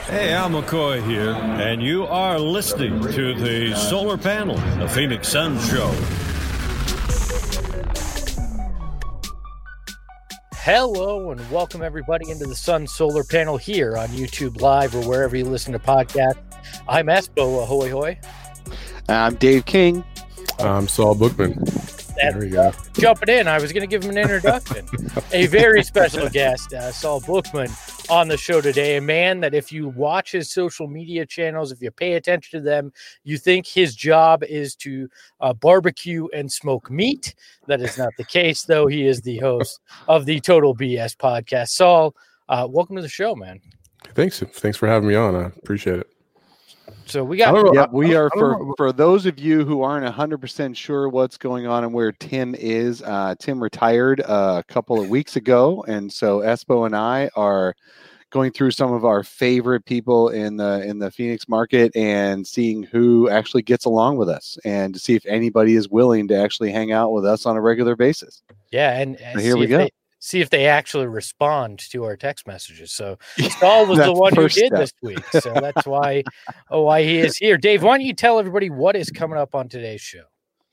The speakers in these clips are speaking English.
Hey, Al McCoy here, and you are listening to the Solar Panel, the Phoenix Suns Show. Hello and welcome everybody into the Sun Solar Panel here on YouTube Live or wherever you listen to podcasts. I'm Espo, ahoy hoy. I'm Dave King. I'm Saul Bookman. There we go. Jumping in, I was going to give him an introduction. A very special guest, Saul Bookman, on the show today. A man that if you watch his social media channels, if you pay attention to them, you think his job is to barbecue and smoke meat. That is not the case, though. He is the host of the Total BS podcast. Saul, welcome to the show, man. Thanks for having me on. I appreciate it. So we got for those of you who aren't 100% sure what's going on and where Tim is. Tim retired a couple of weeks ago, and so Espo and I are going through some of our favorite people in the Phoenix market and seeing who actually gets along with us, and to see if anybody is willing to actually hang out with us on a regular basis. Yeah, and so here we go. See if they actually respond to our text messages. So Saul was the one who did this week. So that's why he is here. Dave, why don't you tell everybody what is coming up on today's show?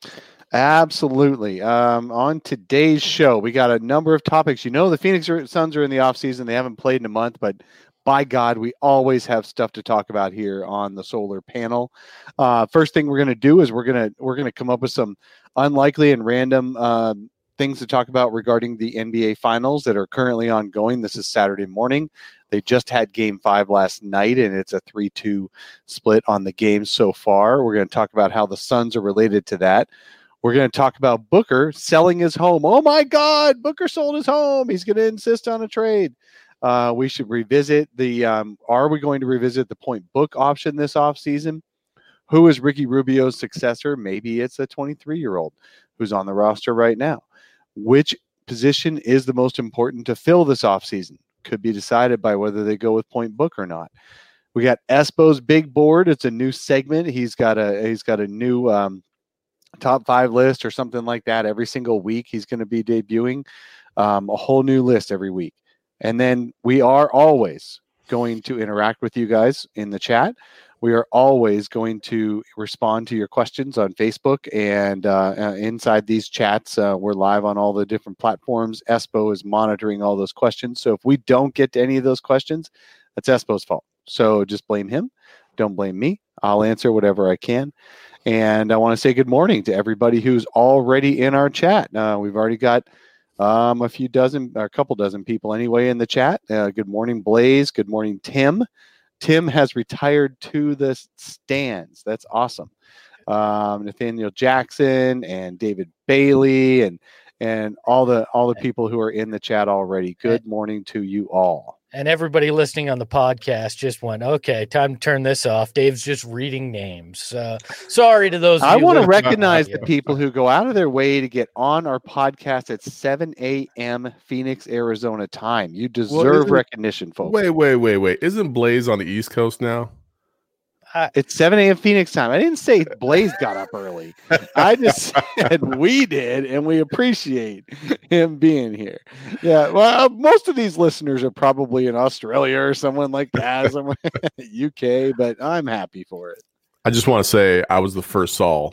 Absolutely. On today's show, we got a number of topics. You know, the Phoenix Suns are in the offseason. They haven't played in a month, but by God, we always have stuff to talk about here on the Solar Panel. First thing we're going to do is we're going to come up with some unlikely and random things to talk about regarding the NBA Finals that are currently ongoing. This is Saturday morning. They just had Game 5 last night, and it's a 3-2 split on the game so far. We're going to talk about how the Suns are related to that. We're going to talk about Booker selling his home. Oh, my God, Booker sold his home. He's going to insist on a trade. We should revisit are we going to revisit the point book option this offseason? Who is Ricky Rubio's successor? Maybe it's a 23-year-old who's on the roster right now. Which position is the most important to fill this offseason? Could be decided by whether they go with point book or not. We got Espo's big board. It's a new segment. He's got a new top 5 list or something like that every single week. He's going to be debuting a whole new list every week. And then we are always going to interact with you guys in the chat. We are always going to respond to your questions on Facebook and inside these chats. We're live on all the different platforms. Espo is monitoring all those questions. So if we don't get to any of those questions, that's Espo's fault. So just blame him. Don't blame me. I'll answer whatever I can. And I want to say good morning to everybody who's already in our chat. We've already got a couple dozen people anyway in the chat. Good morning, Blaze. Good morning, Tim. Tim has retired to the stands. That's awesome. Nathaniel Jackson and David Bailey and all the people who are in the chat already. Good morning to you all. And everybody listening on the podcast just went, okay, time to turn this off. Dave's just reading names. Sorry to those. I want to recognize the people who go out of their way to get on our podcast at 7 a.m. Phoenix, Arizona time. You deserve recognition, folks. Wait. Isn't Blaze on the East Coast now? It's 7 a.m. Phoenix time. I didn't say Blaze got up early. I just said we did, and we appreciate him being here. Yeah, well, most of these listeners are probably in Australia or someone like that, somewhere UK, but I'm happy for it. I just want to say I was the first Saul.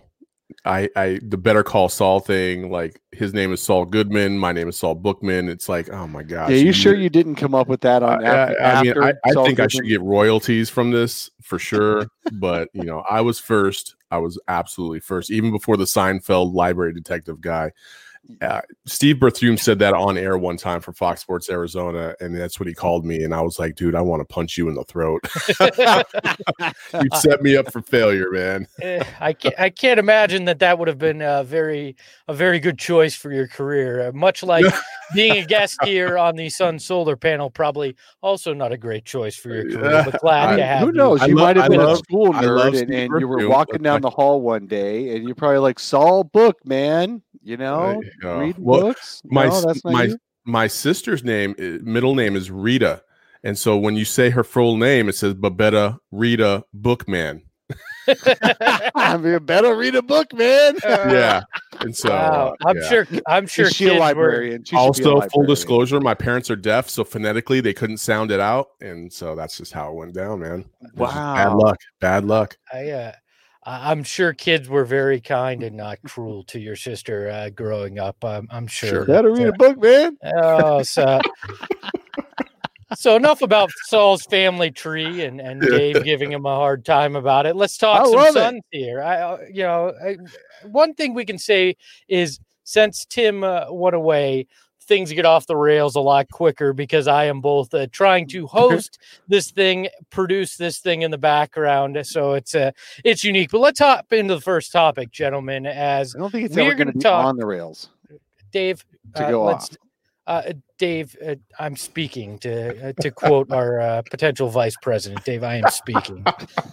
The Better Call Saul thing, like his name is Saul Goodman, my name is Saul Bookman. It's like, oh my gosh. Yeah, you sure you didn't come up with that on I think Goodman? I should get royalties from this for sure. But I was first. I was absolutely first, even before the Seinfeld library detective guy. Steve Berthume said that on air one time for Fox Sports Arizona, and that's what he called me. And I was like, dude, I want to punch you in the throat. You set me up for failure, man. I can't imagine that would have been a very good choice for your career. Much like being a guest here on the Sun Solar Panel, probably also not a great choice for your career. But glad to have you. Who knows? You might have been a school nerd, and you were walking down the hall one day, and you're probably like, Saul Book, man. Reading books. My sister's middle name is Rita, and so when you say her full name, it says Babetta Rita Bookman. I mean, better read a book, man. Yeah. And so I'm sure Is she a librarian? She should be a also, full librarian. disclosure, my parents are deaf, so phonetically they couldn't sound it out, and so that's just how it went down, man. Wow. Bad luck. I'm sure kids were very kind and not cruel to your sister growing up. I'm sure. Better read a book, man. Oh, so enough about Saul's family tree and Dave giving him a hard time about it. Let's talk some Suns here. One thing we can say is since Tim went away, things get off the rails a lot quicker because I am both trying to host this thing, produce this thing in the background. So it's unique. But let's hop into the first topic, gentlemen. As I don't think it's ever going to be on the rails. Dave, to go off. Dave, I'm speaking to quote our potential vice president. Dave, I am speaking.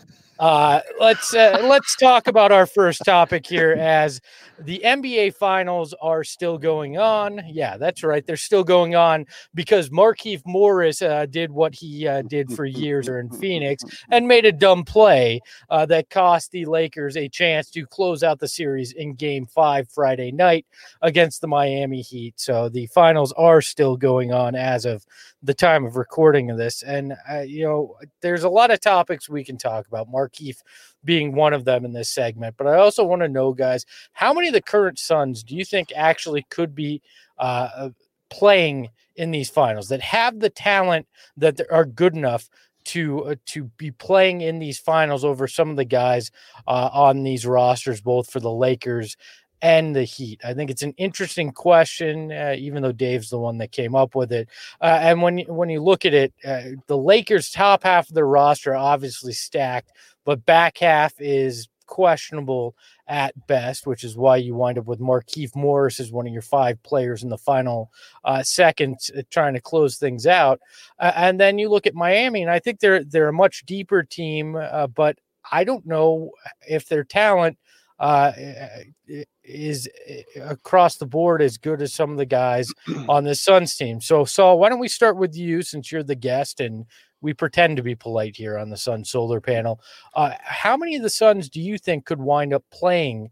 Let's talk about our first topic here, as the NBA finals are still going on. Yeah, that's right. They're still going on because Markieff Morris did what he did for years in Phoenix and made a dumb play that cost the Lakers a chance to close out the series in Game 5 Friday night against the Miami Heat. So the finals are still going on as of the time of recording of this. And, there's a lot of topics we can talk about, Markieff being one of them in this segment. But I also want to know, guys, how many of the current Suns do you think actually could be playing in these finals, that have the talent, that are good enough to be playing in these finals over some of the guys on these rosters, both for the Lakers and the Heat? I think it's an interesting question, even though Dave's the one that came up with it. And when you look at it, the Lakers' top half of their roster obviously stacked, but back half is questionable at best, which is why you wind up with Markieff Morris as one of your 5 players in the final seconds trying to close things out. And then you look at Miami, and I think they're a much deeper team, but I don't know if their talent is across the board as good as some of the guys on the Suns team. So Saul, why don't we start with you, since you're the guest and we pretend to be polite here on the Sun Solar Panel. How many of the Suns do you think could wind up playing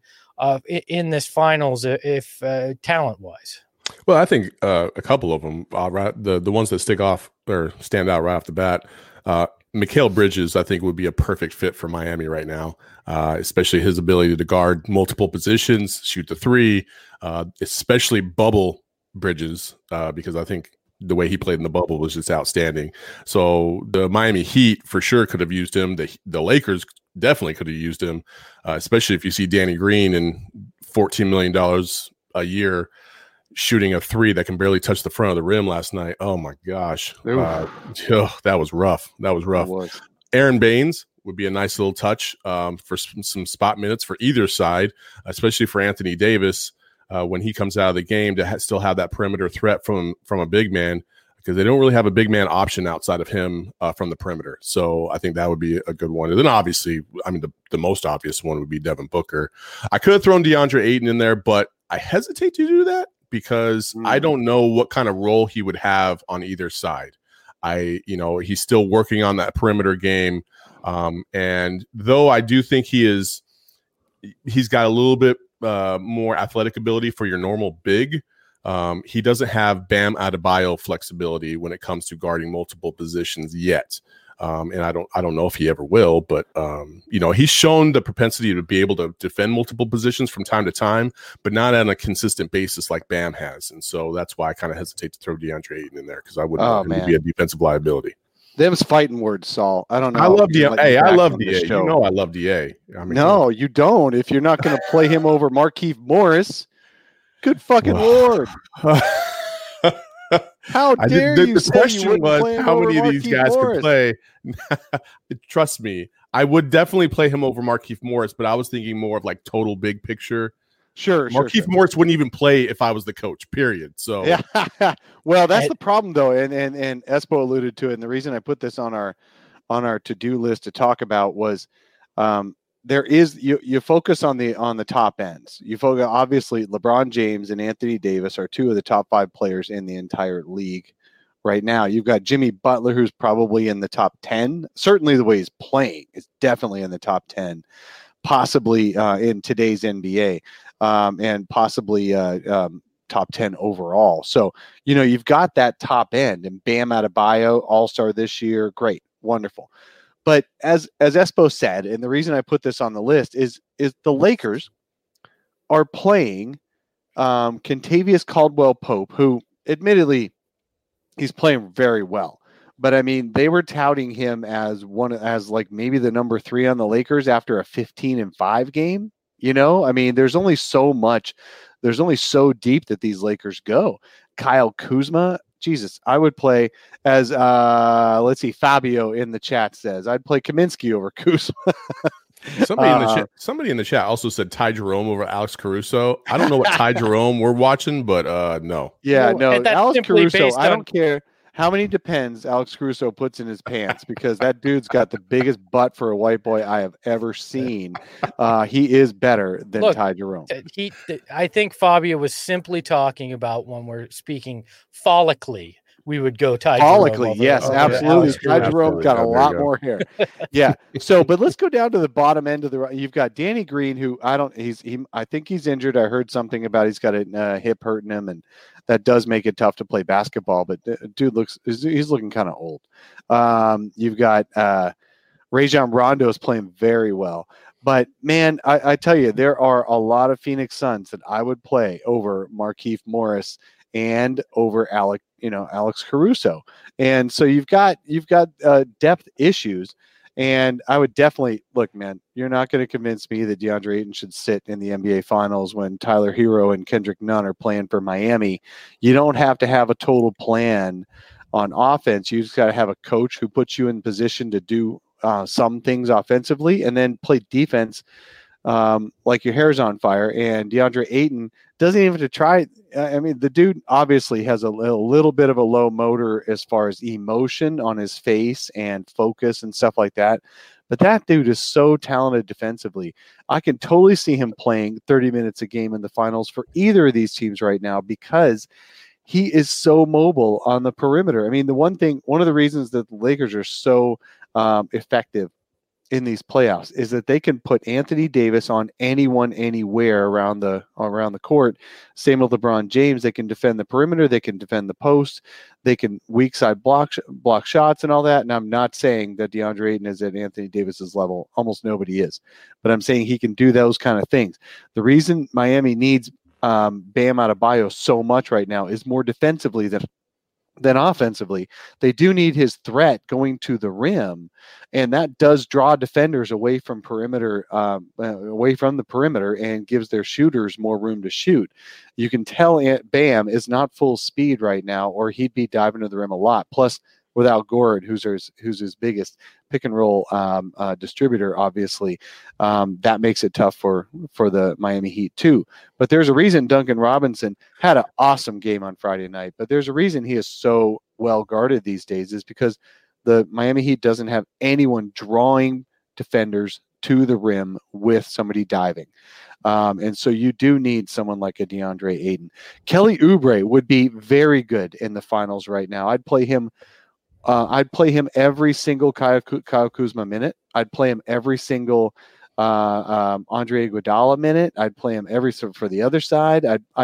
in this finals if talent wise? Well, I think a couple of them, the ones that stick off or stand out right off the bat. Mikal Bridges, I think, would be a perfect fit for Miami right now, especially his ability to guard multiple positions, shoot the three, especially bubble Bridges, because I think the way he played in the bubble was just outstanding. So the Miami Heat for sure could have used him. The Lakers definitely could have used him, especially if you see Danny Green and $14 million a year shooting a three that can barely touch the front of the rim last night. Oh my gosh. That was rough. Aaron Baines would be a nice little touch for some spot minutes for either side, especially for Anthony Davis when he comes out of the game to still have that perimeter threat from a big man, because they don't really have a big man option outside of him from the perimeter. So I think that would be a good one. And then obviously, I mean, the most obvious one would be Devin Booker. I could have thrown DeAndre Ayton in there, but I hesitate to do that because I don't know what kind of role he would have on either side. He's still working on that perimeter game. And though I do think he's got a little bit more athletic ability for your normal big, he doesn't have Bam Adebayo flexibility when it comes to guarding multiple positions yet. And I don't know if he ever will, but he's shown the propensity to be able to defend multiple positions from time to time, but not on a consistent basis like Bam has. And so that's why I kind of hesitate to throw DeAndre Ayton in there, because I wouldn't want him to be a defensive liability. Them's fighting words, Saul. I don't know. I love DA. Hey, I love DA. You know I love DA. I mean, no, you don't. If you're not going to play him over Markieff Morris, good fucking Lord. How dare you? The question was how many of these guys could play. Trust me, I would definitely play him over Markieff Morris, but I was thinking more of like total big picture. Sure. Markieff Morris wouldn't even play if I was the coach, period. So yeah. Well, that's the problem though. And Espo alluded to it. And the reason I put this on our to-do list to talk about was there is you focus on the top ends. You focus, obviously LeBron James and Anthony Davis are two of the top 5 players in the entire league right now. You've got Jimmy Butler, who's probably in the top 10. Certainly the way he's playing is definitely in the top 10, possibly in today's NBA, and possibly top 10 overall. So, you've got that top end, and Bam Adebayo, all-star this year. Great. Wonderful. But as Espo said, and the reason I put this on the list is the Lakers are playing Kentavious Caldwell-Pope, who admittedly he's playing very well. But I mean, they were touting him as like maybe the number 3 on the Lakers after a 15-5 game. I mean, there's only so deep that these Lakers go. Kyle Kuzma, Jesus, I would play as let's see, Fabio in the chat says I'd play Kaminsky over Kuzma. Somebody in the chat also said Ty Jerome over Alex Caruso. I don't know what Ty Jerome we're watching, but no. Yeah, no, Alex Caruso, I don't care how many Depends Alex Caruso puts in his pants, because that dude's got the biggest butt for a white boy I have ever seen. He is better than Ty Jerome. I think Fabio was simply talking about, when we're speaking follically, we would go Ty follically. Jerome Yes, absolutely. Ty Jerome's got a lot more hair. Yeah. So, but let's go down to the bottom end of the. You've got Danny Green, who I think he's injured. I heard something about he's got a hip hurting him, and that does make it tough to play basketball. But dude he's looking kind of old. You've got Rajon Rondo is playing very well. But man, I tell you, there are a lot of Phoenix Suns that I would play over Markieff Morris and over Alex Caruso. And so you've got depth issues. And I would definitely look, man, you're not going to convince me that DeAndre Ayton should sit in the NBA Finals when Tyler Hero and Kendrick Nunn are playing for Miami. You don't have to have a total plan on offense. You just got to have a coach who puts you in position to do some things offensively, and then play defense like your hair's on fire. And DeAndre Ayton doesn't even have to try. I mean, the dude obviously has a little bit of a low motor as far as emotion on his face and focus and stuff like that. But that dude is so talented defensively. I can totally see him playing 30 minutes a game in the finals for either of these teams right now, because he is so mobile on the perimeter. I mean, one of the reasons that the Lakers are so effective in these playoffs is that they can put Anthony Davis on anyone, anywhere around the court. Same with LeBron James. They can defend the perimeter. They can defend the post. They can weak side block shots and all that. And I'm not saying that DeAndre Ayton is at Anthony Davis's level. Almost nobody is. But I'm saying he can do those kind of things. The reason Miami needs Bam Adebayo so much right now is more defensively than offensively. They do need his threat going to the rim, and that does draw defenders away from the perimeter, and gives their shooters more room to shoot. You can tell Bam is not full speed right now, or he'd be diving to the rim a lot. Plus, without Gord, who's his biggest pick and roll distributor, obviously, that makes it tough for the Miami Heat too. But there's a reason Duncan Robinson had an awesome game on Friday night. But there's a reason he is so well guarded these days, is because the Miami Heat doesn't have anyone drawing defenders to the rim with somebody diving. And so you do need someone like a DeAndre Ayton. Kelly Oubre would be very good in the finals right now. I'd play him every single Kyle Kuzma minute. I'd play him every single Andre Iguodala minute. I'd play him for the other side.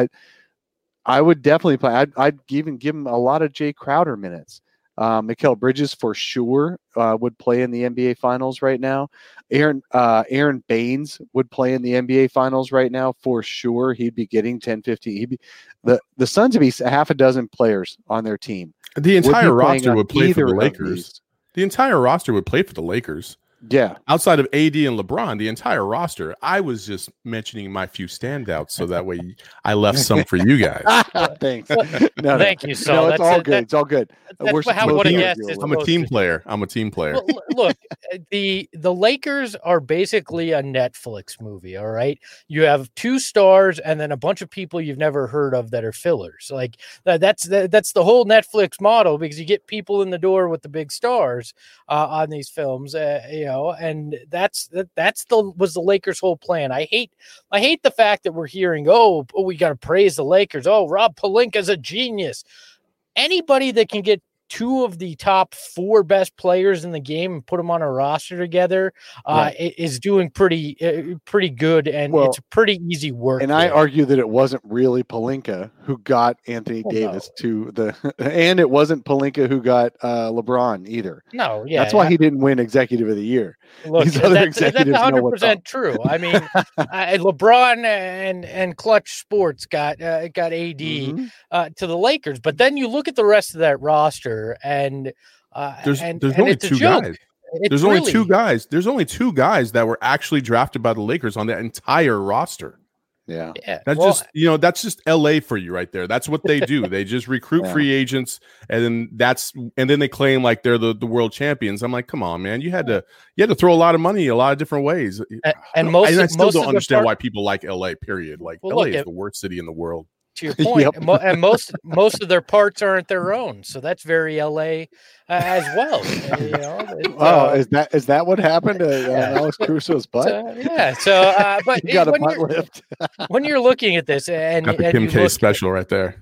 I would definitely play. I'd even give him a lot of Jay Crowder minutes. Mikal Bridges for sure would play in the NBA Finals right now. Aaron Baines would play in the NBA Finals right now for sure. He'd be getting 10, 15. The Suns would be half a dozen players on their team. The entire roster would play for the Lakers. The entire roster would play for the Lakers. Yeah. Outside of AD and LeBron, the entire roster. I was just mentioning my few standouts so that way I left some for you guys. Thanks. Thank you, Saul. No, it's all good. It's all good. I'm a team player. Well, look, the Lakers are basically a Netflix movie, all right? You have 2 stars and then a bunch of people you've never heard of that are fillers. Like that's the whole Netflix model, because you get people in the door with the big stars on these films, and was the Lakers' whole plan. I hate the fact that we're hearing, we got to praise the Lakers. Oh, Rob Pelinka's a genius. anybody that can get two of the top 4 best players in the game and put them on a roster together is doing pretty good, and it's a pretty easy work. And I argue that it wasn't really Pelinka who got Anthony Davis to and it wasn't Pelinka who got LeBron either. No, yeah, that's why he didn't win Executive of the Year. Look, that's 100% true. I mean, LeBron and Clutch Sports got AD to the Lakers, but then you look at the rest of that roster. And there's only 2 guys. Only 2 guys. There's only 2 guys that were actually drafted by the Lakers on that entire roster. Yeah. That's just LA for you right there. That's what they do. They just recruit free agents, and then they claim like they're the world champions. I'm like, come on, man. You had to throw a lot of money a lot of different ways. And I still don't understand why people like LA, period. Like LA is the worst city in the world. To your point, and most of their parts aren't their own, so that's very LA as well. Is that what happened to Alex Crusoe's butt? But you got a butt lift. When you're looking at this, and got the Kim K special right there,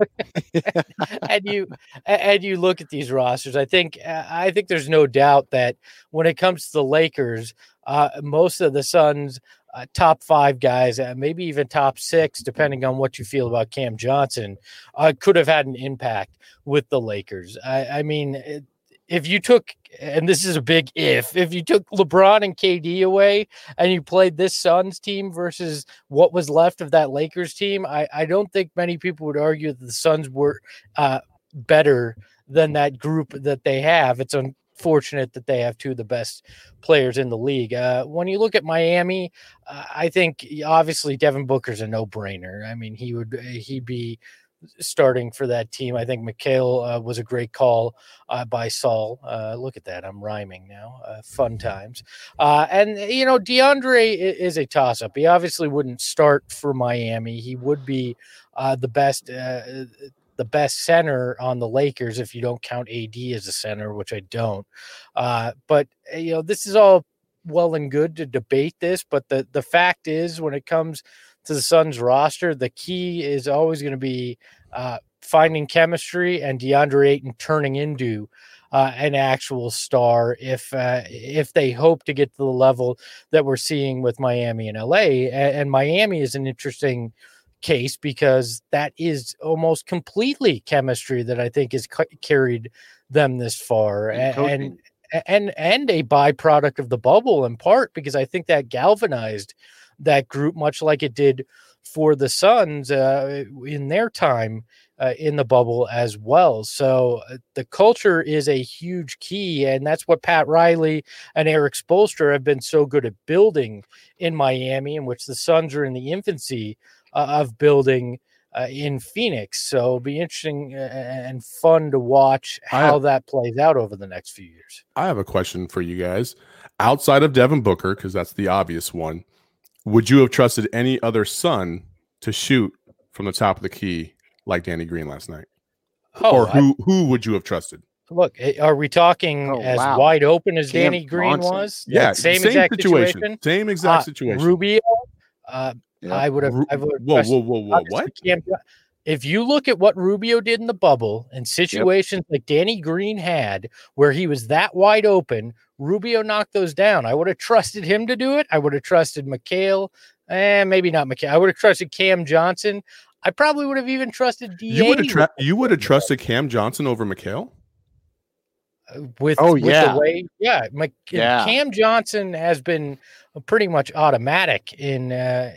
and you look at these rosters, I think there's no doubt that when it comes to the Lakers, most of the Suns. Top 5 guys, maybe even top 6, depending on what you feel about Cam Johnson, could have had an impact with the Lakers. I mean, if you took, and this is a big if you took LeBron and KD away and you played this Suns team versus what was left of that Lakers team, I don't think many people would argue that the Suns were better than that group that they have. It's unfortunate that they have 2 of the best players in the league. When you look at Miami, I think obviously Devin Booker's a no-brainer. I mean, he'd be starting for that team. I think Mikal was a great call by Saul. Look at that. I'm rhyming now. Fun times. And, DeAndre is a toss-up. He obviously wouldn't start for Miami. He would be the best center on the Lakers if you don't count AD as a center, which I don't. But this is all well and good to debate this, but the fact is, when it comes to the Suns roster, the key is always going to be finding chemistry and DeAndre Ayton turning into an actual star if they hope to get to the level that we're seeing with Miami and LA. And Miami is an interesting case because that is almost completely chemistry that I think has carried them this far, and a byproduct of the bubble in part, because I think that galvanized that group much like it did for the Suns in their time in the bubble as well. So the culture is a huge key, and that's what Pat Riley and Eric Spoelstra have been so good at building in Miami, in which the Suns are in the infancy of building in Phoenix. So it'll be interesting and fun to watch how that plays out over the next few years. I have a question for you guys. Outside of Devin Booker, because that's the obvious one, would you have trusted any other Sun to shoot from the top of the key like Danny Green last night? Or who would you have trusted? Look, are we talking wide open as Danny Green was? Yeah, same exact situation. Same exact situation. Rubio. I would have. Whoa! What? If you look at what Rubio did in the bubble and situations like Danny Green had, where he was that wide open, Rubio knocked those down. I would have trusted him to do it. I would have trusted Mikal, maybe not Mikal. I would have trusted Cam Johnson. I probably would have even trusted DA. You would have trusted Cam Johnson over Mikal? The way, Cam Johnson has been pretty much automatic in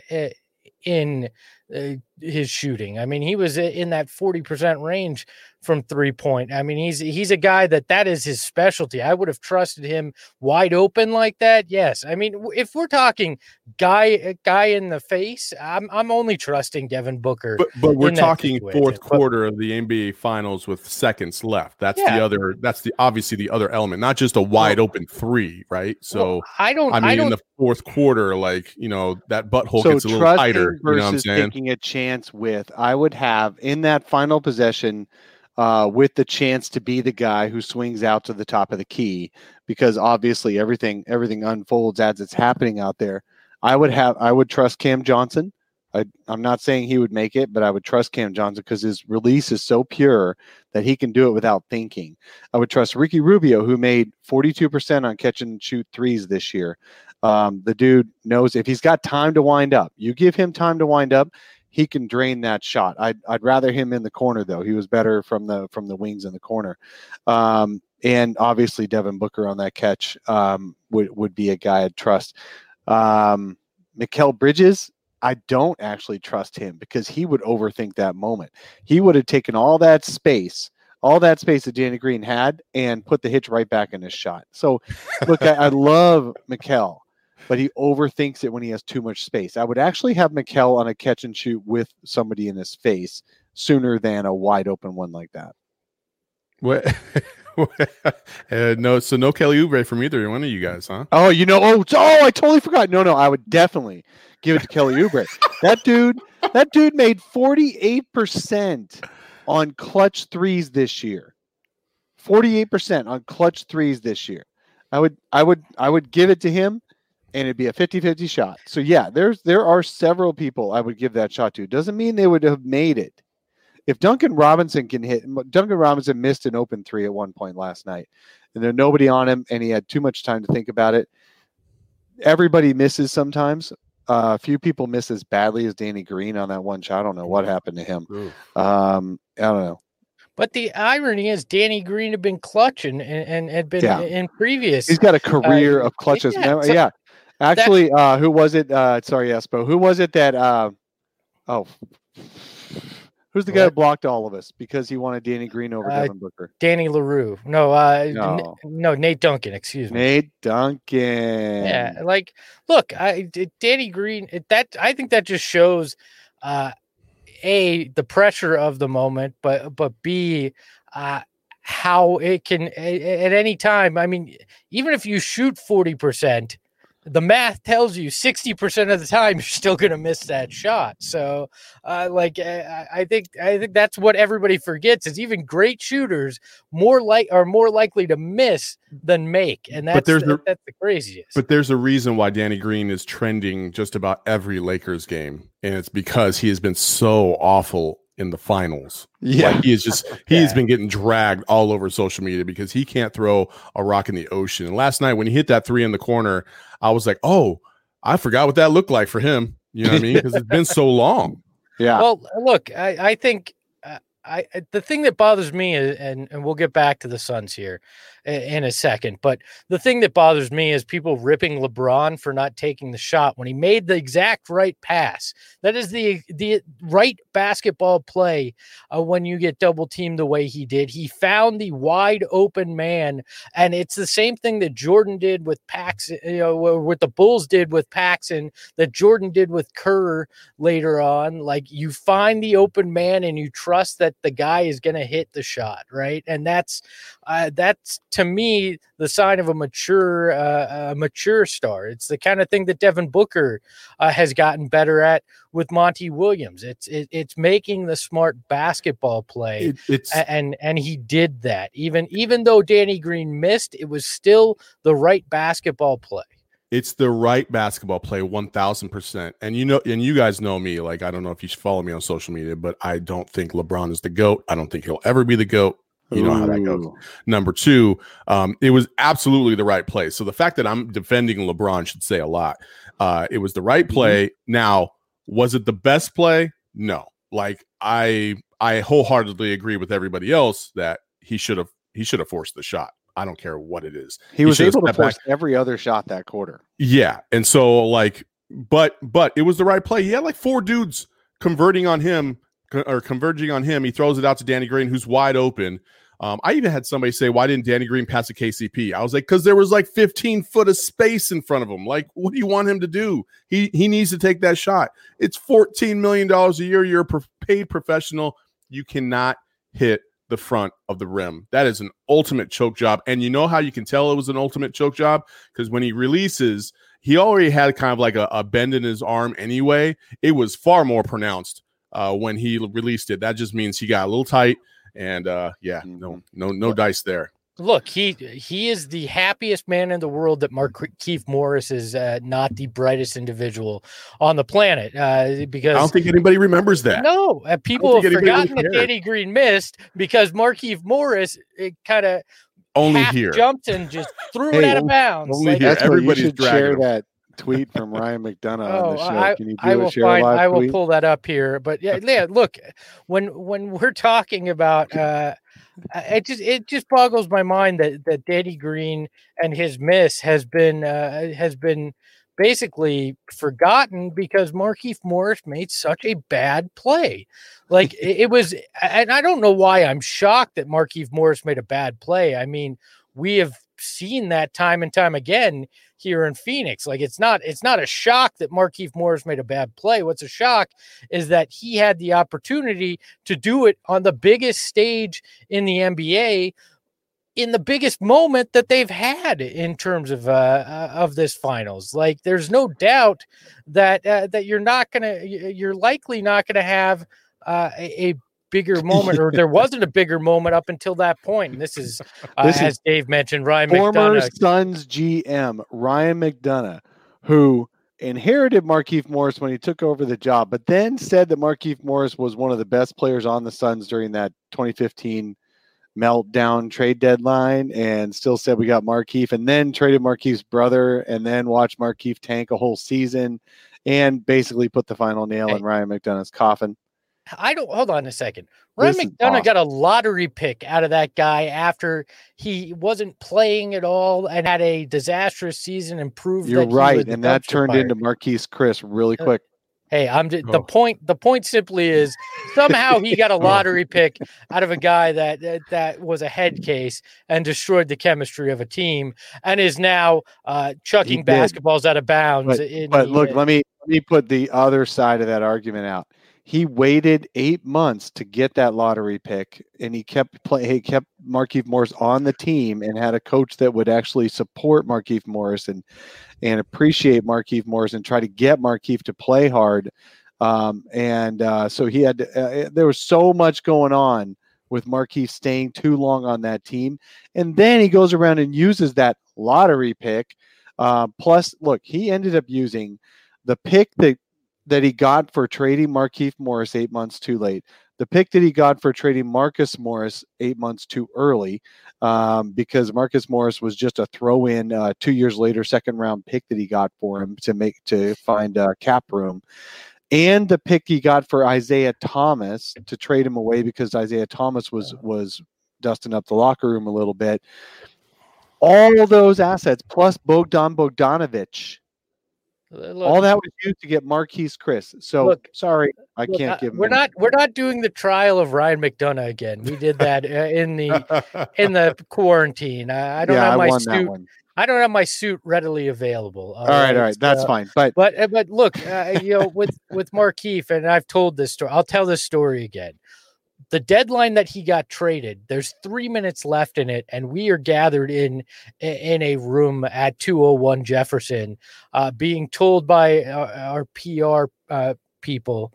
his shooting. I mean, he was in that 40% range from 3-point. I mean, he's a guy that is his specialty. I would have trusted him wide open like that. Yes. I mean, if we're talking guy in the face, I'm only trusting Devin Booker. But we're talking fourth quarter of the NBA Finals with seconds left. That's obviously the other element, not just a wide open 3, right? So in the fourth quarter, that butthole gets a little tighter. You know what I'm saying? Taking a chance with, I would have in that final possession with the chance to be the guy who swings out to the top of the key, because obviously everything unfolds as it's happening out there. I would trust Cam Johnson I'm not saying he would make it, but I would trust Cam Johnson because his release is so pure that he can do it without thinking. I would trust Ricky Rubio, who made 42% on catch and shoot threes this year. The dude knows if he's got time to wind up, you give him time to wind up, he can drain that shot. I'd rather him in the corner though. He was better from the wings in the corner. And obviously Devin Booker on that catch would be a guy I'd trust. Mikal Bridges, I don't actually trust him because he would overthink that moment. He would have taken all that space that Danny Green had and put the hitch right back in his shot. So look, I love Mikal, but he overthinks it when he has too much space. I would actually have Mikal on a catch and shoot with somebody in his face sooner than a wide open one like that. What? No Kelly Oubre from either one of you guys, huh? Oh, I totally forgot. No, I would definitely give it to Kelly Oubre. That dude made 48% on clutch threes this year. 48% on clutch threes this year. I would give it to him, and it'd be a 50-50 shot. So yeah, there are several people I would give that shot to. Doesn't mean they would have made it. If Duncan Robinson missed an open three at one point last night, and there's nobody on him, and he had too much time to think about it. Everybody misses sometimes. A few people miss as badly as Danny Green on that one shot. I don't know what happened to him. I don't know. But the irony is Danny Green had been clutching and had been in previous. He's got a career of clutches. Actually, who was it? Sorry, Espo. Who was it that who's the guy who blocked all of us because he wanted Danny Green over Devin Booker? Danny LaRue. No, Nate Duncan. Excuse me. Nate Duncan. Yeah, look, Danny Green. I think that just shows, A, the pressure of the moment, but B, how it can at any time. I mean, even if you shoot 40%. The math tells you 60% of the time you're still going to miss that shot. So, I think that's what everybody forgets is even great shooters are more likely to miss than make, and that's the craziest. But there's a reason why Danny Green is trending just about every Lakers game, and it's because he has been so awful in the finals. Yeah, he's been getting dragged all over social media because he can't throw a rock in the ocean. And last night when he hit that three in the corner, I was like, oh, I forgot what that looked like for him. You know what I mean? Because it's been so long. Yeah. Well, look, I think the thing that bothers me is, and we'll get back to the Suns here in a second, but the thing that bothers me is people ripping LeBron for not taking the shot when he made the exact right pass. That is the right basketball play when you get double teamed the way he did. He found the wide open man, and it's the same thing that Jordan did with Paxson, what the Bulls did with Paxson, that Jordan did with Kerr later on. Like, you find the open man and you trust that the guy is going to hit the shot, right? And that's to me the sign of a mature star. It's the kind of thing that Devin Booker has gotten better at with Monty Williams. It's making the smart basketball play, and he did that. Even though Danny Green missed, it was still the right basketball play. It's the right basketball play, 1,000%. And you guys know me. Like, I don't know if you follow me on social media, but I don't think LeBron is the GOAT. I don't think he'll ever be the GOAT. You know how that goes. Number two, it was absolutely the right play. So the fact that I'm defending LeBron should say a lot. It was the right play. Now, was it the best play? No. Like, I wholeheartedly agree with everybody else that he should have forced the shot. I don't care what it is. He was able to force every other shot that quarter. Yeah. And so, but it was the right play. He had like four dudes converging on him. He throws it out to Danny Green, who's wide open. I even had somebody say, why didn't Danny Green pass a KCP? I was like, because there was like 15 foot of space in front of him. Like, what do you want him to do? He needs to take that shot. It's $14 million a year. You're a paid professional. You cannot hit the front of the rim. That is an ultimate choke job. And you know how you can tell it was an ultimate choke job? Because when he releases, he already had kind of like a bend in his arm anyway. It was far more pronounced when he released it. That just means he got a little tight. And no dice there. Look, he is the happiest man in the world that Markieff Morris is not the brightest individual on the planet because I don't think anybody remembers that. No, people have forgotten that Danny Green missed because Markieff Morris kind of only here jumped and just threw it out of bounds. Only here. Everybody should share that tweet from Ryan McDonough on the show. Can you do I will pull that up here. But yeah, look, when we're talking about it just boggles my mind that Danny Green and his miss has been basically forgotten because Markieff Morris made such a bad play. Like it was, and I don't know why I'm shocked that Markieff Morris made a bad play. I mean, we have seen that time and time again here in Phoenix. Like it's not a shock that Markieff Morris made a bad play. What's a shock is that he had the opportunity to do it on the biggest stage in the NBA in the biggest moment that they've had in terms of this finals. Like there's no doubt that you're likely not gonna have a bigger moment, or there wasn't a bigger moment up until that point. And this is as Dave mentioned, Ryan former McDonough, Suns GM Ryan McDonough, who inherited Markieff Morris when he took over the job, but then said that Markieff Morris was one of the best players on the Suns during that 2015 meltdown trade deadline, and still said we got Markieff, and then traded Markieff's brother, and then watched Markieff tank a whole season, and basically put the final nail in Ryan McDonough's coffin. Hold on a second. Ryan McDonough got a lottery pick out of that guy after he wasn't playing at all and had a disastrous season and proved you're right, and that turned into Marquise Chris really quick. Hey, the point simply is somehow he got a lottery pick out of a guy that was a head case and destroyed the chemistry of a team and is now chucking basketballs out of bounds. But look, let me put the other side of that argument out. He waited 8 months to get that lottery pick, and he kept Markieff Morris on the team and had a coach that would actually support Markieff Morris and appreciate Markieff Morris and try to get Markieff to play hard. So he had there was so much going on with Markieff staying too long on that team. And then he goes around and uses that lottery pick. Plus, look, he ended up using the pick that he got for trading Markieff Morris 8 months too late, the pick that he got for trading Marcus Morris 8 months too early, because Marcus Morris was just a throw-in 2 years later second-round pick that he got for him to find cap room, and the pick he got for Isaiah Thomas to trade him away because Isaiah Thomas was dusting up the locker room a little bit. All those assets plus Bogdan Bogdanović. All that was used to get Marquise Chris. So sorry, I can't give him. We're not doing the trial of Ryan McDonough again. We did that in the quarantine. I don't have my suit. I don't have my suit readily available. All right, that's fine. But look, with Markieff, and I've told this story. I'll tell this story again. The deadline that he got traded, there's 3 minutes left in it, and we are gathered in a room at 201 Jefferson, being told by our PR people,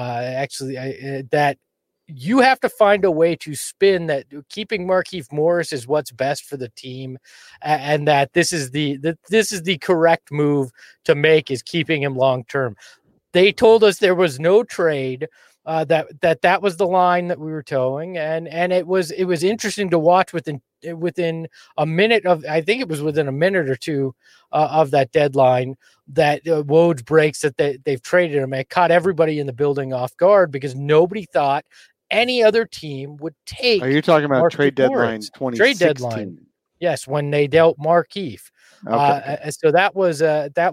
that you have to find a way to spin that keeping Markieff Morris is what's best for the team, and that this is the correct move to make, is keeping him long term. They told us there was no trade. That was the line that we were towing, and it was interesting to watch within a minute of, I think it was within a minute or two of that deadline, that Woj breaks that they've traded him. It caught everybody in the building off guard because nobody thought any other team would take. Are you talking about trade deadline 2016? Trade deadline, yes, when they dealt Markieff. Okay. So that was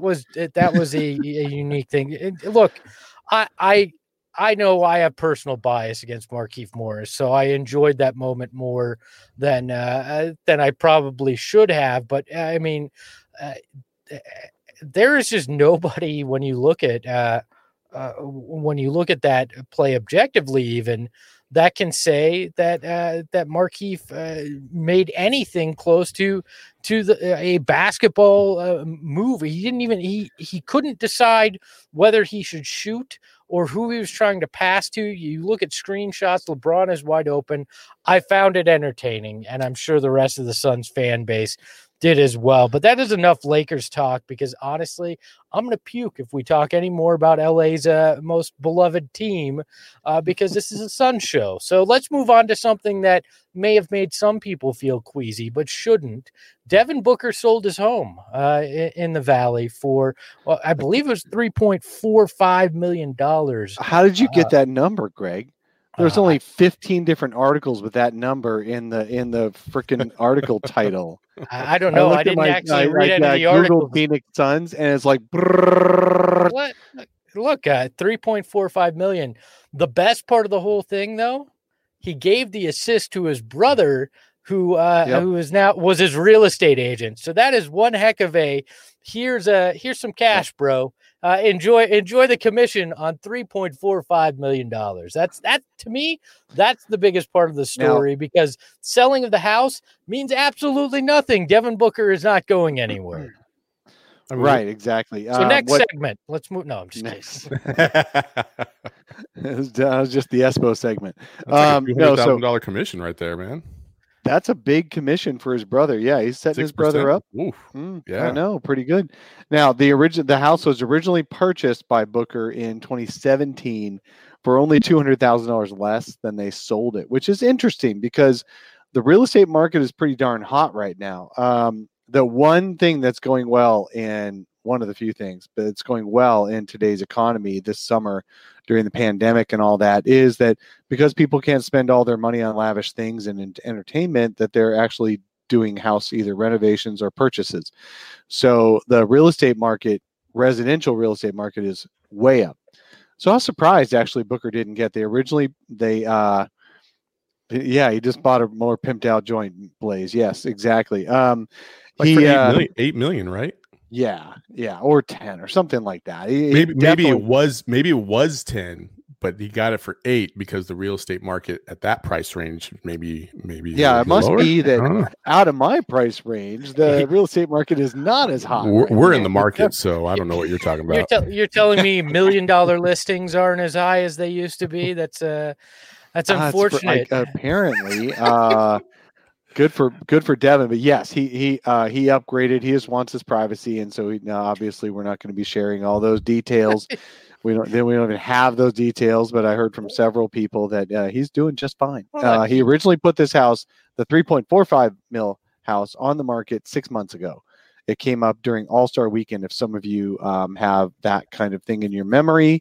a unique thing. Look, I know I have personal bias against Markieff Morris, so I enjoyed that moment more than I probably should have. But I mean, there is just nobody when you look at that play objectively, even, that can say that Markieff made anything close to a basketball move. He didn't even he couldn't decide whether he should shoot or who he was trying to pass to. You look at screenshots, LeBron is wide open. I found it entertaining, and I'm sure the rest of the Suns fan base did as well. But that is enough Lakers talk, because honestly, I'm going to puke if we talk any more about LA's most beloved team, because this is a Suns show. So let's move on to something that may have made some people feel queasy, but shouldn't. Devin Booker sold his home in the Valley for, well, I believe it was $3.45 million. How did you get that number, Greg? There's only 15 different articles with that number in the freaking article title. I don't know. I didn't actually read any of the articles. Phoenix Suns, and it's like, what? Look, $3.45 million. The best part of the whole thing, though, he gave the assist to his brother, who was his real estate agent. So that is one heck of a. Here's some cash, bro. Enjoy the commission on $3.45 million. That to me, that's the biggest part of the story, because selling of the house means absolutely nothing. Devin Booker is not going anywhere. Right, exactly. So next segment, let's move. No, I'm just kidding. That was just the Espo segment. That's like a $200,000 commission right there, man. That's a big commission for his brother. Yeah, he's setting 6%. His brother up. Yeah, I know, pretty good. Now, the house was originally purchased by Booker in 2017 for only $200,000 less than they sold it, which is interesting because the real estate market is pretty darn hot right now. The one thing that's going well, and one of the few things, but it's going well in today's economy this summer during the pandemic and all that, is that because people can't spend all their money on lavish things and entertainment, that they're actually doing house either renovations or purchases. So the residential real estate market is way up. So I was surprised actually Booker didn't get. He just bought a more pimped out joint, Blaze. Yes, exactly. For $8 million, right? Yeah, or 10 or something like that. Maybe it was 10, but he got it for 8 because the real estate market at that price range maybe it must lower? Be that out of my price range, the real estate market is not as hot. We're in the market, so I don't know what you're talking about. You're telling me $1 million listings aren't as high as they used to be? That's unfortunate. Apparently. Good for Devin, but yes, he upgraded. He just wants his privacy, and so obviously we're not going to be sharing all those details. We don't even have those details, but I heard from several people that he's doing just fine. He originally put this house, the $3.45 million house, on the market 6 months ago. It came up during All-Star Weekend. If some of you have that kind of thing in your memory,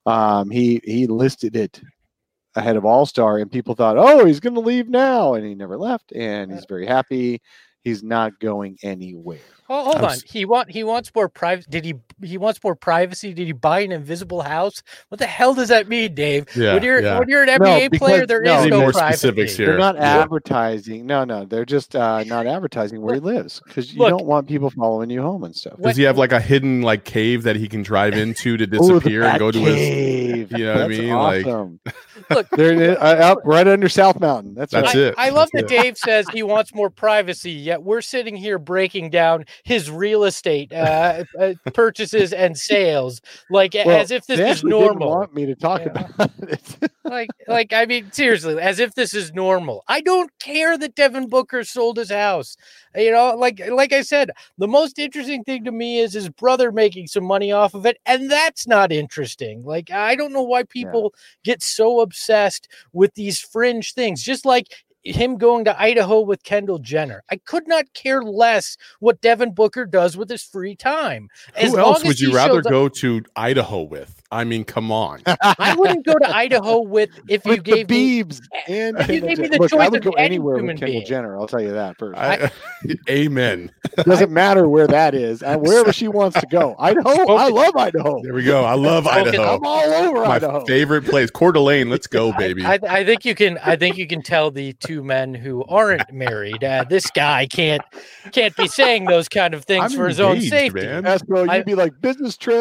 he listed it ahead of All-Star, and people thought, oh, he's going to leave now, and he never left, and he's very happy. He's not going anywhere. Oh, hold on. He wants more privacy. He wants more privacy? Did he buy an invisible house? What the hell does that mean, Dave? Yeah, when you're an NBA player, there is no privacy. Specifics here. They're not advertising. No, they're just not advertising where he lives, because you don't want people following you home and stuff. Does he have like a hidden cave that he can drive into to disappear and go to his? You know what I mean? Awesome. Look, they're up right under South Mountain. That's it. I love that Dave says he wants more privacy, yet we're sitting here breaking down his real estate purchases and sales as if this is normal. Didn't want me to talk about it. I mean, seriously, as if this is normal. I don't care that Devin Booker sold his house. Like I said, the most interesting thing to me is his brother making some money off of it, and that's not interesting. Like, I don't know why people get so obsessed with these fringe things, just like him going to Idaho with Kendall Jenner. I could not care less what Devin Booker does with his free time. Who else would you rather go to Idaho with? I mean, come on. I wouldn't go to Idaho with you gave me Biebs and if you gave me the choice I would go anywhere with Kendall Jenner. I'll tell you that first. Amen. Doesn't matter where that is, wherever she wants to go. Idaho. I love Idaho. There we go. I love Idaho. I'm all over Idaho. My favorite place, Coeur d'Alene. Let's go, baby. I think you can tell the two men who aren't married. This guy can't be saying those kind of things for his own safety. Man. Bro, you'd be like, business trip.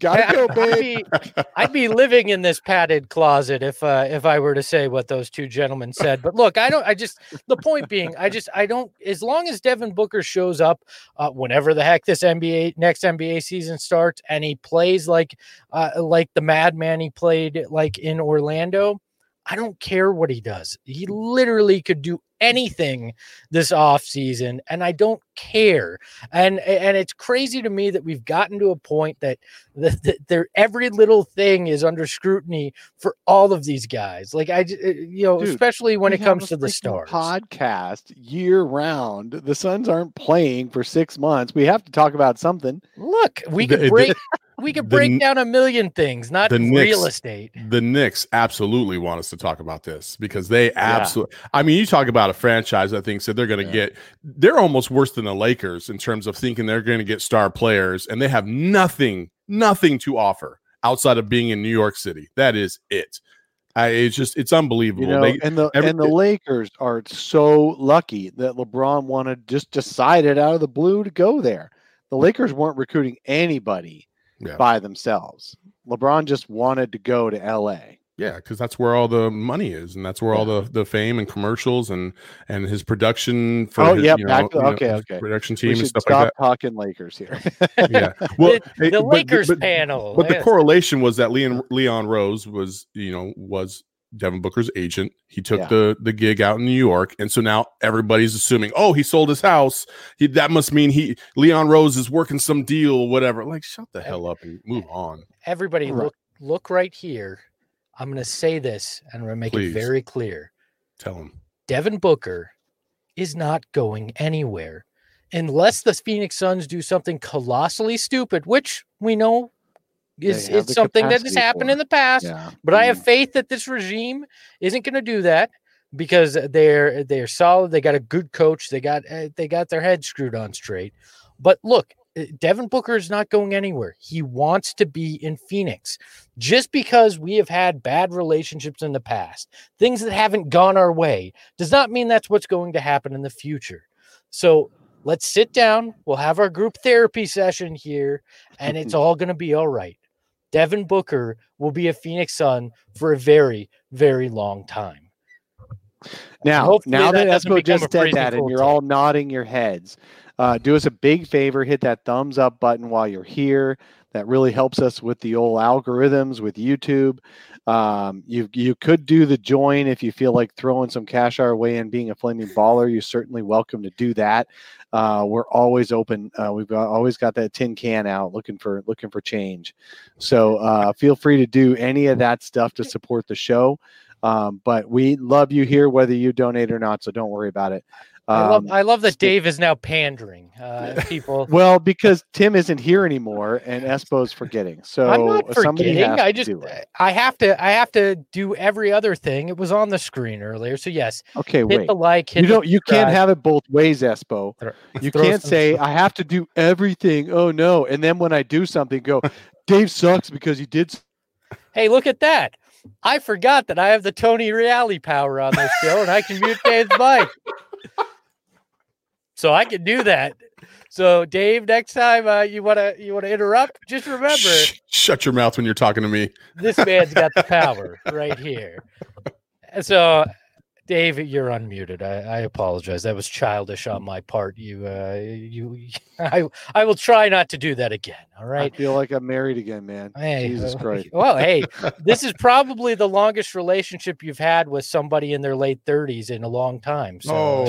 Gotta go, babe. I'd be living in this padded closet if I were to say what those two gentlemen said. But look, the point being, I don't, as long as Devin Booker shows up whenever the heck this next NBA season starts, and he plays like the madman he played like in Orlando, I don't care what he does. He literally could do anything this off season, and I don't care. And it's crazy to me that we've gotten to a point that every little thing is under scrutiny for all of these guys. Like Dude, especially when it comes to the stars. Podcast year round. The Suns aren't playing for 6 months. We have to talk about something. Look, we could break down a million things, not real estate. The Knicks absolutely want us to talk about this because they absolutely. I mean, you talk about a franchise I think said they're going to they're almost worse than the Lakers in terms of thinking they're going to get star players, and they have nothing to offer outside of being in New York City. That is it. It's unbelievable. And the Lakers are so lucky that LeBron just decided out of the blue to go there. The Lakers weren't recruiting anybody by themselves. LeBron just wanted to go to LA. Yeah, because that's where all the money is, and that's where all the fame and commercials and his production for his production team and stuff like that. Stop talking Lakers here. Yeah, well, the Lakers panel. But the correlation was that Leon Rose was Devin Booker's agent. He took the gig out in New York, and so now everybody's assuming, he sold his house. That must mean Leon Rose is working some deal, whatever. Like, shut the hell up and move on. Everybody, look right here. I'm going to say this, and I'm going to make it very clear. Tell him. Devin Booker is not going anywhere unless the Phoenix Suns do something colossally stupid, which we know it's something that has happened in the past. Yeah. But I have faith that this regime isn't going to do that because they're solid. They got a good coach. They got their head screwed on straight. But look, Devin Booker is not going anywhere. He wants to be in Phoenix. Just because we have had bad relationships in the past, things that haven't gone our way, does not mean that's what's going to happen in the future. So let's sit down. We'll have our group therapy session here, and it's all going to be all right. Devin Booker will be a Phoenix Sun for a very, very long time. Now that Espo just said that, and you're all nodding your heads, do us a big favor, hit that thumbs up button while you're here. That really helps us with the old algorithms with YouTube. You could do the join if you feel like throwing some cash our way and being a flaming baller. You're certainly welcome to do that. We're always open. We've always got that tin can out looking for change. So feel free to do any of that stuff to support the show. But we love you here, whether you donate or not. So don't worry about it. I love that Dave is now pandering people. Well, because Tim isn't here anymore and Espo's forgetting. So I'm not forgetting. I have to do every other thing. It was on the screen earlier. So yes. Okay, hit the like. You can't have it both ways, Espo. You can't say I have to do everything. Oh no. And then when I do something, go, Dave sucks because he did. Hey, look at that. I forgot that I have the Tony Reale power on this show and I can mute Dave's mic. So I can do that. So Dave, next time you want to interrupt, just remember. Shut your mouth when you're talking to me. This man's got the power right here. So Dave, you're unmuted. I apologize. That was childish on my part. I will try not to do that again. All right. I feel like I'm married again, man. Hey, Jesus Christ. Well, hey, this is probably the longest relationship you've had with somebody in their late 30s in a long time. So.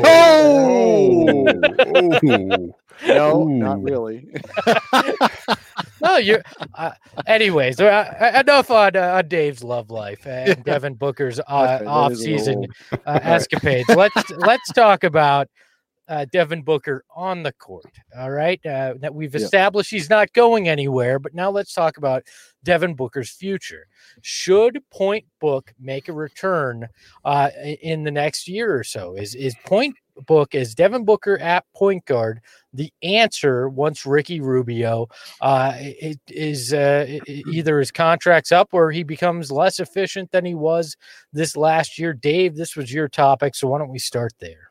No, not really. No, you're. Anyways, enough on Dave's love life and Devin Booker's off-season escapades. Let's talk about Devin Booker on the court. All right, that we've established he's not going anywhere, but now let's talk about Devin Booker's future. Should Point Book make a return in the next year or so? Is Point Book, is Devin Booker at point guard the answer once Ricky Rubio is either his contract's up or he becomes less efficient than he was this last year? Dave, this was your topic, so why don't we start there?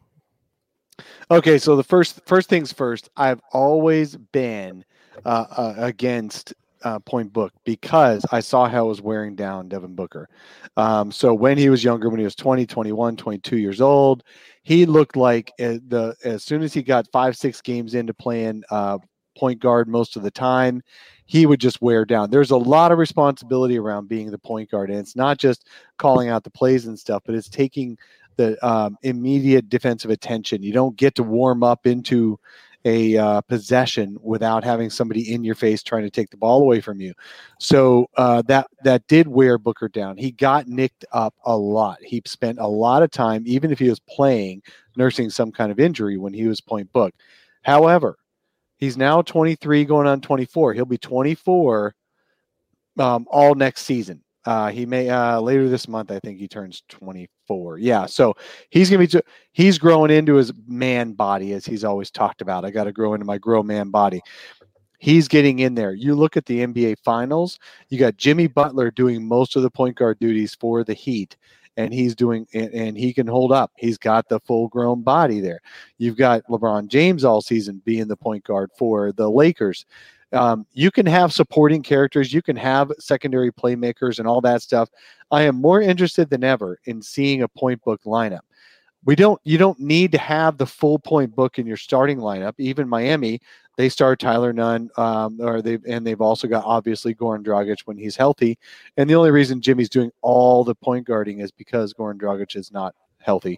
Okay, so the first things first, I've always been against Point Book because I saw how it was wearing down Devin Booker. So when he was younger, when he was 20, 21, 22 years old, he looked like as soon as he got 5-6 games into playing point guard most of the time, he would just wear down. There's a lot of responsibility around being the point guard, and it's not just calling out the plays and stuff, but it's taking the immediate defensive attention. You don't get to warm up into a possession without having somebody in your face trying to take the ball away from you. So that did wear Booker down. He got nicked up a lot. He spent a lot of time, even if he was playing, nursing some kind of injury when he was Point Book. However, he's now 23 going on 24. He'll be 24 all next season. He may later this month, I think he turns 24. Yeah, so he's growing into his man body, as he's always talked about. I got to grow into my grow man body. He's getting in there. You look at the NBA Finals. You got Jimmy Butler doing most of the point guard duties for the Heat, and and he can hold up. He's got the full grown body there. You've got LeBron James all season being the point guard for the Lakers. You can have supporting characters, you can have secondary playmakers and all that stuff. I am more interested than ever in seeing a Point Book lineup. You don't need to have the full Point Book in your starting lineup. Even Miami, they start Tyler Nunn, they've also got obviously Goran Dragic when he's healthy. And the only reason Jimmy's doing all the point guarding is because Goran Dragic is not healthy.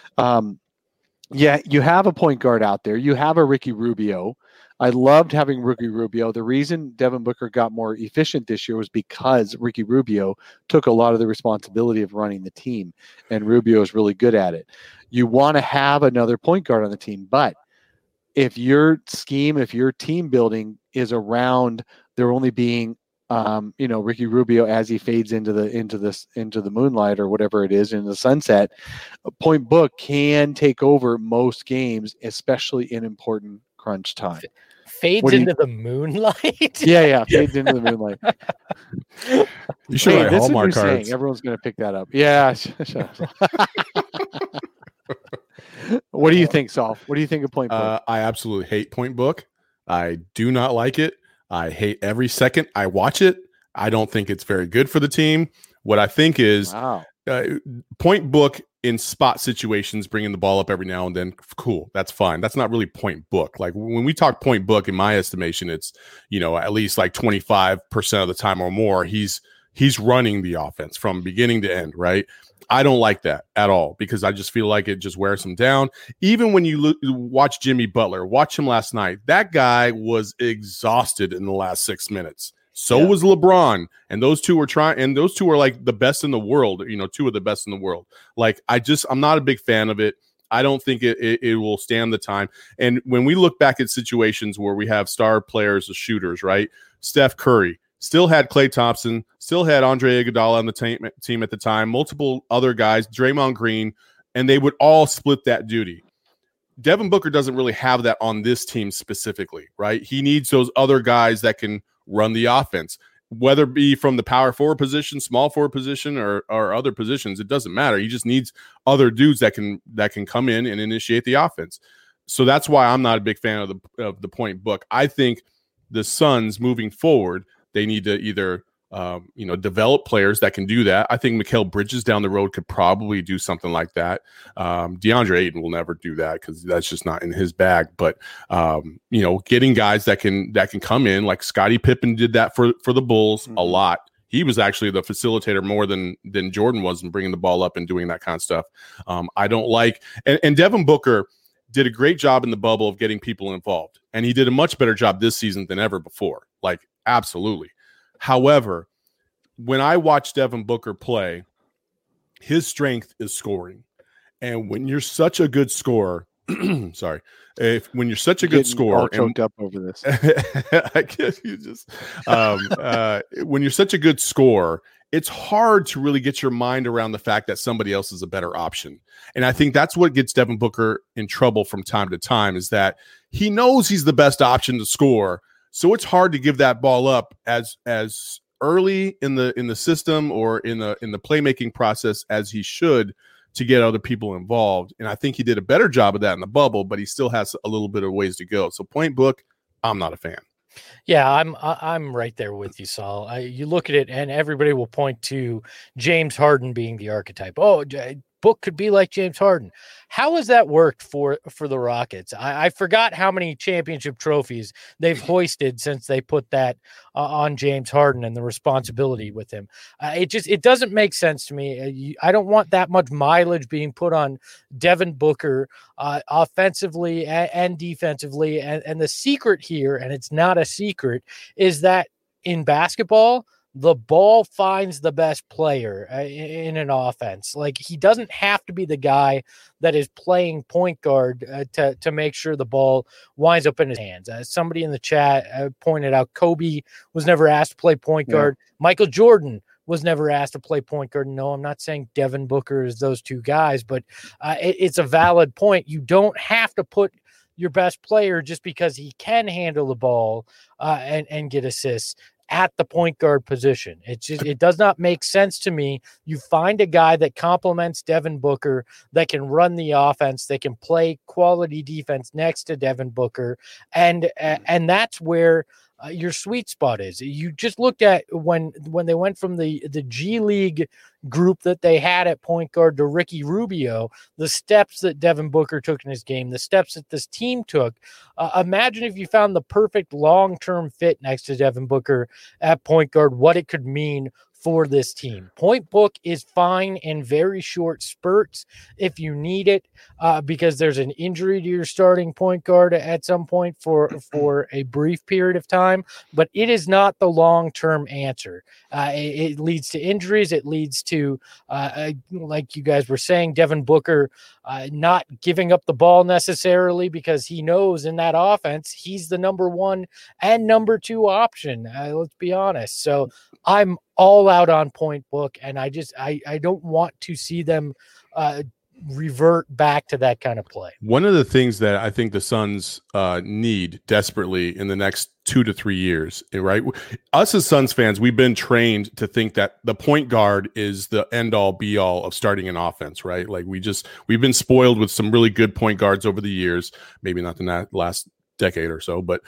You have a point guard out there. You have a Ricky Rubio. I loved having Ricky Rubio. The reason Devin Booker got more efficient this year was because Ricky Rubio took a lot of the responsibility of running the team, and Rubio is really good at it. You want to have another point guard on the team, but if your team building is around there only being Ricky Rubio as he fades into the moonlight or whatever it is in the sunset, Point Book can take over most games, especially in important crunch time. Fades into the moonlight. Yeah, fades into the moonlight. You should write Hallmark cards. Everyone's going to pick that up. Yeah. What do you think, Saul? What do you think of Point Book? I absolutely hate Point Book. I do not like it. I hate every second I watch it. I don't think it's very good for the team. What I think is Point Book in spot situations, bringing the ball up every now and then, cool. That's fine. That's not really Point Book. Like when we talk Point Book, in my estimation, it's, at least like 25% of the time or more, he's running the offense from beginning to end, right? I don't like that at all because I just feel like it just wears him down. Even when you watch Jimmy Butler, watch him last night, that guy was exhausted in the last 6 minutes. So was LeBron, and those two are like the best in the world, two of the best in the world. Like, I'm not a big fan of it. I don't think it will stand the time. And when we look back at situations where we have star players as shooters, right? Steph Curry still had Klay Thompson, still had Andre Iguodala on the team at the time, multiple other guys, Draymond Green, and they would all split that duty. Devin Booker doesn't really have that on this team specifically, right? He needs those other guys that can run the offense, whether it be from the power forward position, small forward position, or other positions. It doesn't matter. He just needs other dudes that can come in and initiate the offense. So that's why I'm not a big fan of the Point Book. I think the Suns moving forward, they need to either develop players that can do that. I think Mikal Bridges down the road could probably do something like that. DeAndre Ayton will never do that because that's just not in his bag. But getting guys that can come in, like Scottie Pippen did that for the Bulls a lot. He was actually the facilitator more than Jordan was in bringing the ball up and doing that kind of stuff. I don't like and Devin Booker did a great job in the bubble of getting people involved, and he did a much better job this season than ever before. Like, absolutely. When I watch Devin Booker play, his strength is scoring. And when you're such a good scorer, when you're such a good scorer, choked up over this. I guess you just when you're such a good scorer, it's hard to really get your mind around the fact that somebody else is a better option. And I think that's what gets Devin Booker in trouble from time to time, is that he knows he's the best option to score. So it's hard to give that ball up as early in the system or in the playmaking process as he should to get other people involved. And I think he did a better job of that in the bubble, but he still has a little bit of ways to go. So Point Book, I'm not a fan. Yeah, I'm right there with you, Saul. You look at it, and everybody will point to James Harden being the archetype. Oh, Book could be like James Harden. How has that worked for the Rockets? I forgot how many championship trophies they've hoisted since they put that on James Harden and the responsibility with him. It doesn't make sense to me. I don't want that much mileage being put on Devin Booker offensively and defensively. And the secret here, and it's not a secret, is that in basketball, the ball finds the best player in an offense. Like, he doesn't have to be the guy that is playing point guard to make sure the ball winds up in his hands. Somebody in the chat pointed out Kobe was never asked to play point guard. Michael Jordan was never asked to play point guard. No, I'm not saying Devin Booker is those two guys, but it's a valid point. You don't have to put your best player just because he can handle the ball and get assists at the point guard position. It does not make sense to me. You find a guy that complements Devin Booker, that can run the offense, that can play quality defense next to Devin Booker, and that's where your sweet spot is. You just looked at when they went from the G League group that they had at point guard to Ricky Rubio, the steps that Devin Booker took in his game, the steps that this team took. Imagine if you found the perfect long-term fit next to Devin Booker at point guard, what it could mean for this team. Point Book is fine in very short spurts if you need it, because there's an injury to your starting point guard at some point for a brief period of time, but it is not the long-term answer. It leads to injuries. It leads to, like you guys were saying, Devin Booker not giving up the ball necessarily because he knows in that offense he's the number one and number two option. Let's be honest. So I'm all out on Point Book, and I don't want to see them revert back to that kind of play. One of the things that I think the Suns need desperately in the next 2 to 3 years, right? Us as Suns fans, we've been trained to think that the point guard is the end all be all of starting an offense, right? Like we've been spoiled with some really good point guards over the years, maybe not the last decade or so, but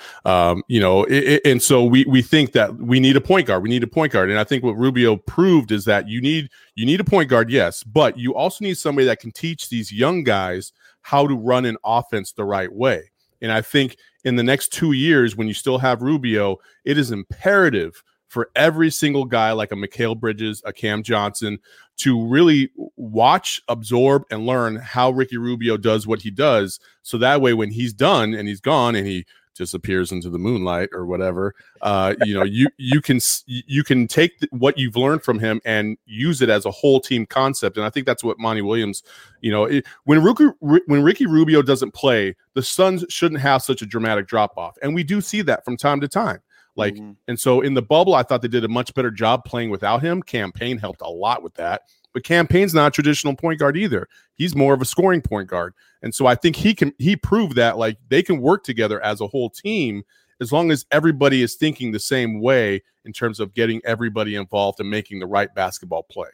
and so we think that we need a point guard. We need a point guard, and I think what Rubio proved is that you need a point guard, yes, but you also need somebody that can teach these young guys how to run an offense the right way. And I think in the next 2 years, when you still have Rubio, it is imperative for every single guy like a Mikal Bridges, a Cam Johnson, to really watch, absorb, and learn how Ricky Rubio does what he does. So that way, when he's done and he's gone and he disappears into the moonlight or whatever, you can take what you've learned from him and use it as a whole team concept. And I think that's what Monty Williams, when Ricky Rubio doesn't play, the Suns shouldn't have such a dramatic drop off. And we do see that from time to time. And so in the bubble, I thought they did a much better job playing without him. Cam Payne helped a lot with that, but Cam Payne's not a traditional point guard either. He's more of a scoring point guard. And so I think he proved that like they can work together as a whole team as long as everybody is thinking the same way in terms of getting everybody involved and making the right basketball play.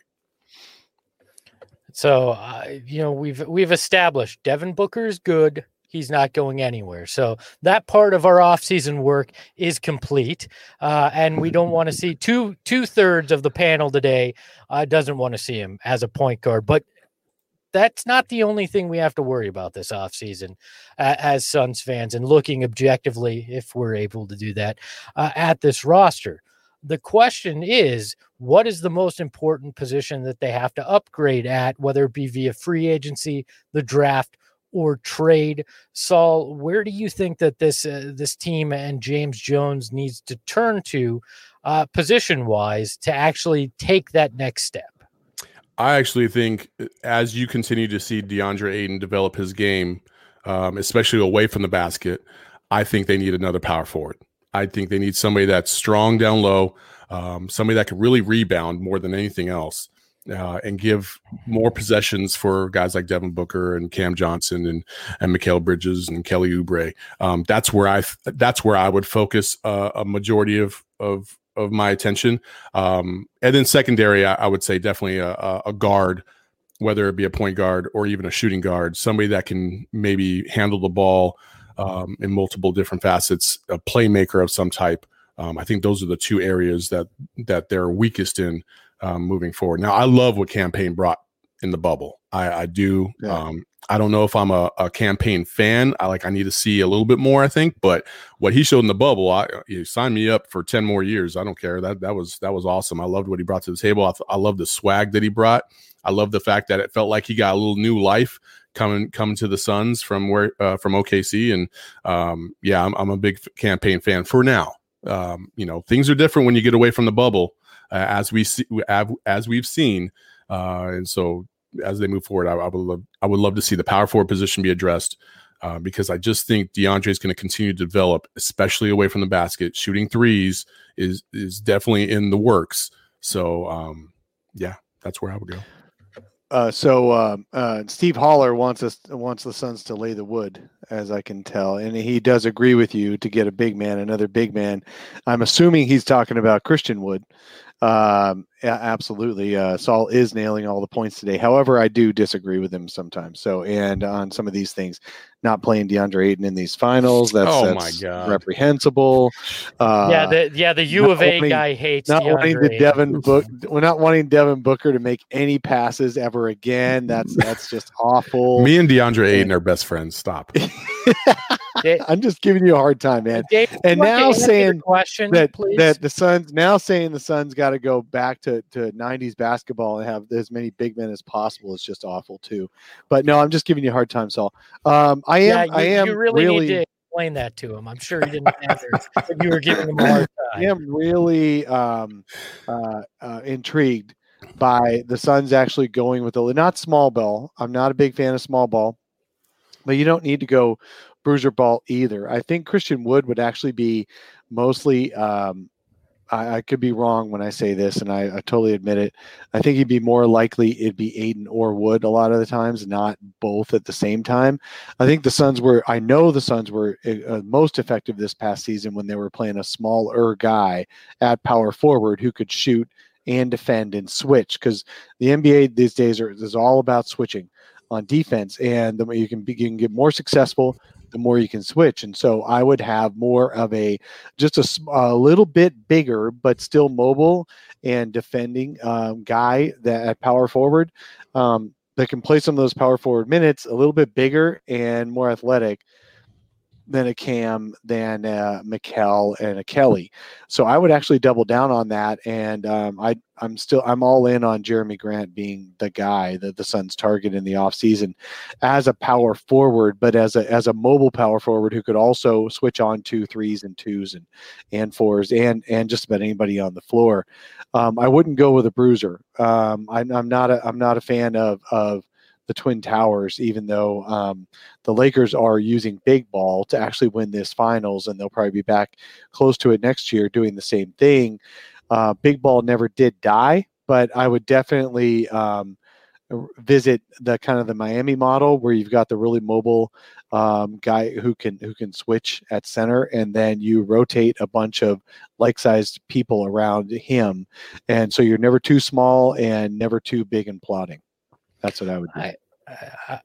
So, we've established Devin Booker is good. He's not going anywhere. So that part of our offseason work is complete. And we don't want to see two-thirds of the panel today doesn't want to see him as a point guard. But that's not the only thing we have to worry about this offseason as Suns fans and looking objectively, if we're able to do that, at this roster. The question is, what is the most important position that they have to upgrade at, whether it be via free agency, the draft, or trade? Saul, where do you think that this team and James Jones needs to turn to position-wise to actually take that next step? I actually think as you continue to see DeAndre Ayton develop his game, especially away from the basket, I think they need another power forward. I think they need somebody that's strong down low, somebody that can really rebound more than anything else. And give more possessions for guys like Devin Booker and Cam Johnson and Mikal Bridges and Kelly Oubre. That's where I would focus a majority of my attention. And then secondary, I would say definitely a guard, whether it be a point guard or even a shooting guard, somebody that can maybe handle the ball in multiple different facets, a playmaker of some type. I think those are the two areas that they're weakest in moving forward. Now, I love what Cam Payne brought in the bubble. I do. Yeah. I don't know if I'm a Cam Payne fan. I need to see a little bit more, I think. But what he showed in the bubble, you sign me up for 10 more years. I don't care. That was awesome. I loved what he brought to the table. I love the swag that he brought. I love the fact that it felt like he got a little new life coming to the Suns from OKC. And I'm a big Cam Payne fan for now. Things are different when you get away from the bubble, as we've seen. And so as they move forward, I would love to see the power forward position be addressed, because I just think DeAndre is going to continue to develop, especially away from the basket. Shooting threes is definitely in the works. So that's where I would go. Steve Haller wants the Suns to lay the wood, as I can tell, and he does agree with you to get another big man. I'm assuming he's talking about Christian Wood. Absolutely. Saul is nailing all the points today. However, I do disagree with him sometimes. So, and on some of these things, not playing DeAndre Ayton in these finals, that's my God, reprehensible. The U of A guy hates not DeAndre wanting we're not wanting Devin Booker to make any passes ever again. That's just awful. Me and DeAndre Ayton are best friends. Stop. I'm just giving you a hard time, man. Dave, and now saying that the Suns got to go back to 90s basketball and have as many big men as possible is just awful too. But no, I'm just giving you a hard time, Saul. You really need to explain that to him. I'm sure he didn't answer, but you were giving him a hard time. I am really intrigued by the Suns actually going with not small ball. I'm not a big fan of small ball, but you don't need to go bruiser ball either. I think Christian Wood would actually be mostly I could be wrong when I say this, and I totally admit it. I think he'd be more likely it'd be Ayton or Wood a lot of the times, not both at the same time. I think the Suns were most effective this past season when they were playing a smaller guy at power forward who could shoot and defend and switch, because the NBA these days is all about switching on defense, and the way you can get more successful, the more you can switch. And so I would have more of a little bit bigger, but still mobile and defending guy that at power forward that can play some of those power forward minutes, a little bit bigger and more athletic than a Cam, than Mikal and a Kelly. So I would actually double down on that. And I'm all in on Jeremy Grant being the guy that the Suns target in the offseason as a power forward, but as a mobile power forward who could also switch on 2 3s and 2s and 4s and just about anybody on the floor. I wouldn't go with a bruiser. I'm not a fan of the Twin Towers, even though the Lakers are using big ball to actually win this finals, and they'll probably be back close to it next year doing the same thing. Big ball never did die, but I would definitely visit the Miami model where you've got the really mobile guy who can switch at center, and then you rotate a bunch of like-sized people around him, and so you're never too small and never too big and plotting. That's what I would do.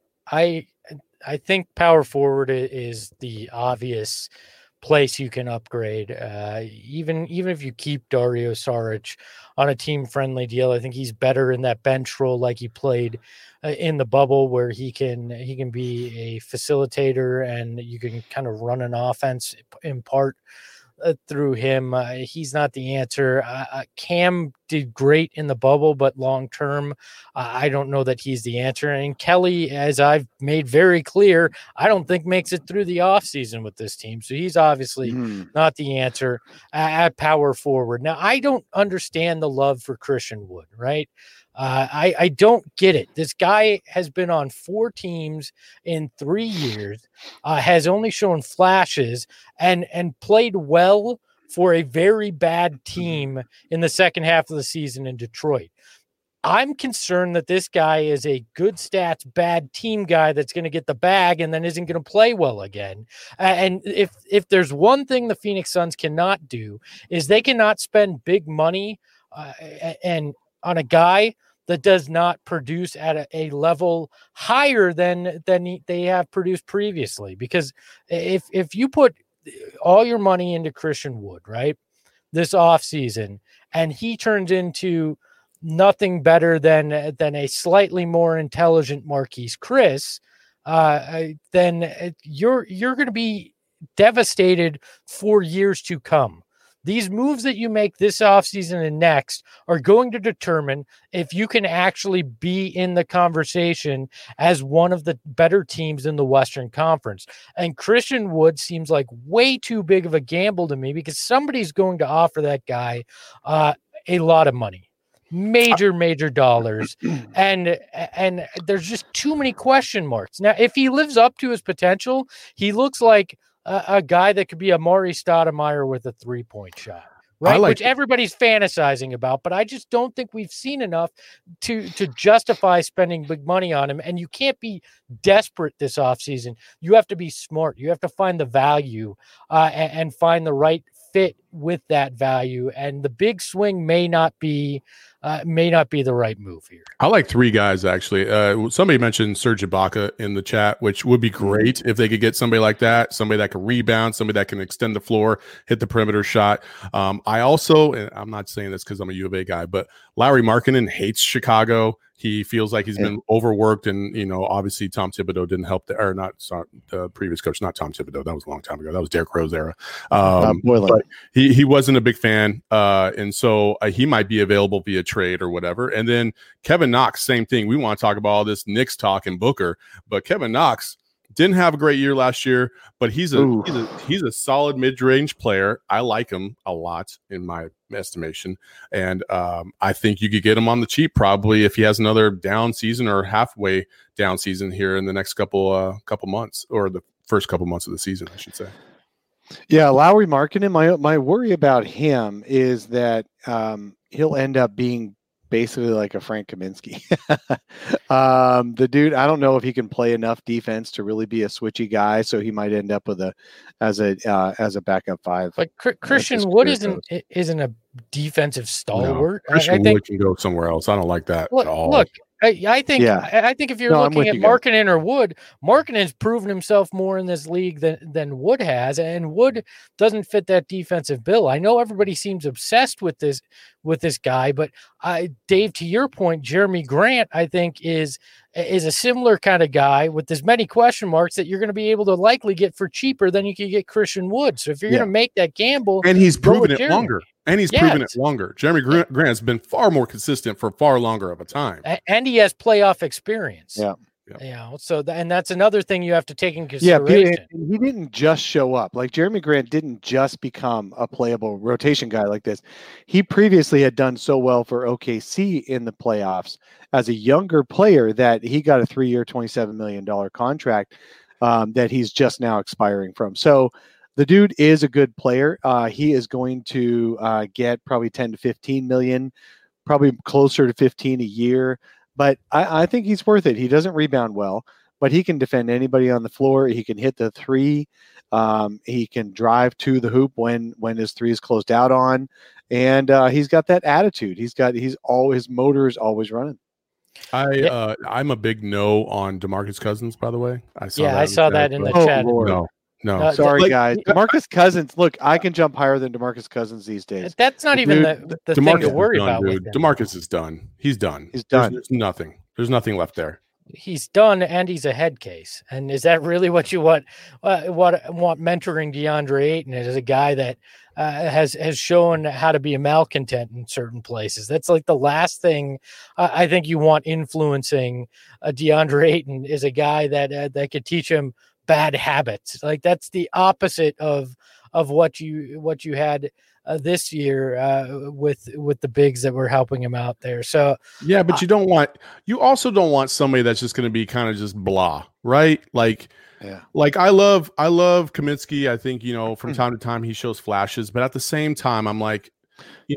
I think power forward is the obvious place you can upgrade. Even if you keep Dario Saric on a team-friendly deal, I think he's better in that bench role, like he played in the bubble, where he can be a facilitator and you can kind of run an offense in part through him. He's not the answer. Cam did great in the bubble, but long term, I don't know that he's the answer. And Kelly, as I've made very clear, I don't think makes it through the offseason with this team. So he's obviously not the answer at power forward. Now, I don't understand the love for Christian Wood, right? I don't get it. This guy has been on 4 teams in 3 years, has only shown flashes and played well for a very bad team in the second half of the season in Detroit. I'm concerned that this guy is a good stats, bad team guy that's going to get the bag and then isn't going to play well again. And if there's one thing the Phoenix Suns cannot do is they cannot spend big money and on a guy that does not produce at a level higher than they have produced previously. Because if you put all your money into Christian Wood, right, this offseason, and he turns into nothing better than a slightly more intelligent Marquise Chris, then you're going to be devastated for years to come. These moves that you make this offseason and next are going to determine if you can actually be in the conversation as one of the better teams in the Western Conference. And Christian Wood seems like way too big of a gamble to me, because somebody's going to offer that guy a lot of money, major dollars. And there's just too many question marks. Now, if he lives up to his potential, he looks like a guy that could be a Maury Stoudemire with a 3-point shot, right? Which everybody's fantasizing about, but I just don't think we've seen enough to justify spending big money on him. And you can't be desperate this offseason. You have to be smart. You have to find the value and find the right fit with that value. And the big swing may not be the right move here. I like 3 guys, actually. Somebody mentioned Serge Ibaka in the chat, which would be great if they could get somebody like that, somebody that can rebound, somebody that can extend the floor, hit the perimeter shot. I also, and I'm not saying this because I'm a U of A guy, but Lauri Markkanen hates Chicago. He feels like he's been overworked, and obviously Tom Thibodeau didn't help the previous coach, not Tom Thibodeau. That was a long time ago. That was Derrick Rose era. But he wasn't a big fan, and so he might be available via trade or whatever. And then Kevin Knox, same thing. We want to talk about all this Knicks talk and Booker, but Kevin Knox didn't have a great year last year, but he's a solid mid-range player. I like him a lot in my estimation, and I think you could get him on the cheap probably if he has another down season or halfway down season here in the next couple months, or the first couple months of the season, I should say. Yeah, Lauri Markkanen. My worry about him is that he'll end up being basically like a Frank Kaminsky. The dude, I don't know if he can play enough defense to really be a switchy guy, so he might end up with as a backup 5. But Christian Wood isn't a defensive stalwart. No, Christian Wood can go somewhere else. I don't like that at all. Look, I think if you're looking at Markkanen or Wood, Markkanen's proven himself more in this league than Wood has, and Wood doesn't fit that defensive bill. I know everybody seems obsessed with this guy, but Dave, to your point, Jeremy Grant, I think is a similar kind of guy with as many question marks that you're going to be able to likely get for cheaper than you could get Christian Wood. So if you're going to make that gamble, and he's proven it longer. And he's proven it longer. Jeremy Grant has been far more consistent for far longer of a time. And he has playoff experience. Yeah. So and that's another thing you have to take in consideration. Yeah, he didn't just show up. Like Jeremy Grant didn't just become a playable rotation guy like this. He previously had done so well for OKC in the playoffs as a younger player that he got a 3-year, $27 million contract that he's just now expiring from. So the dude is a good player. He is going to get probably 10 to 15 million, probably closer to 15 a year. But I think he's worth it. He doesn't rebound well, but he can defend anybody on the floor. He can hit the 3. He can drive to the hoop when his 3 is closed out on, and he's got that attitude. His motor is always running. I'm a big no on DeMarcus Cousins, by the way. I saw that in the chat. No, sorry, guys. DeMarcus Cousins. Look, I can jump higher than DeMarcus Cousins these days. That's not even the thing to worry about. Dude. DeMarcus is done. He's done. He's done. There's nothing. There's nothing left there. He's done, and he's a head case. And is that really what you want? Want mentoring DeAndre Ayton as a guy that has shown how to be a malcontent in certain places? That's like the last thing I think you want influencing DeAndre Ayton is a guy that could teach him bad habits. Like that's the opposite of what you had this year with the bigs that were helping him out there. So yeah, but you also don't want somebody that's just going to be kind of just blah, right? Like I love Kaminsky. I think from time to time he shows flashes, but at the same time I'm like, is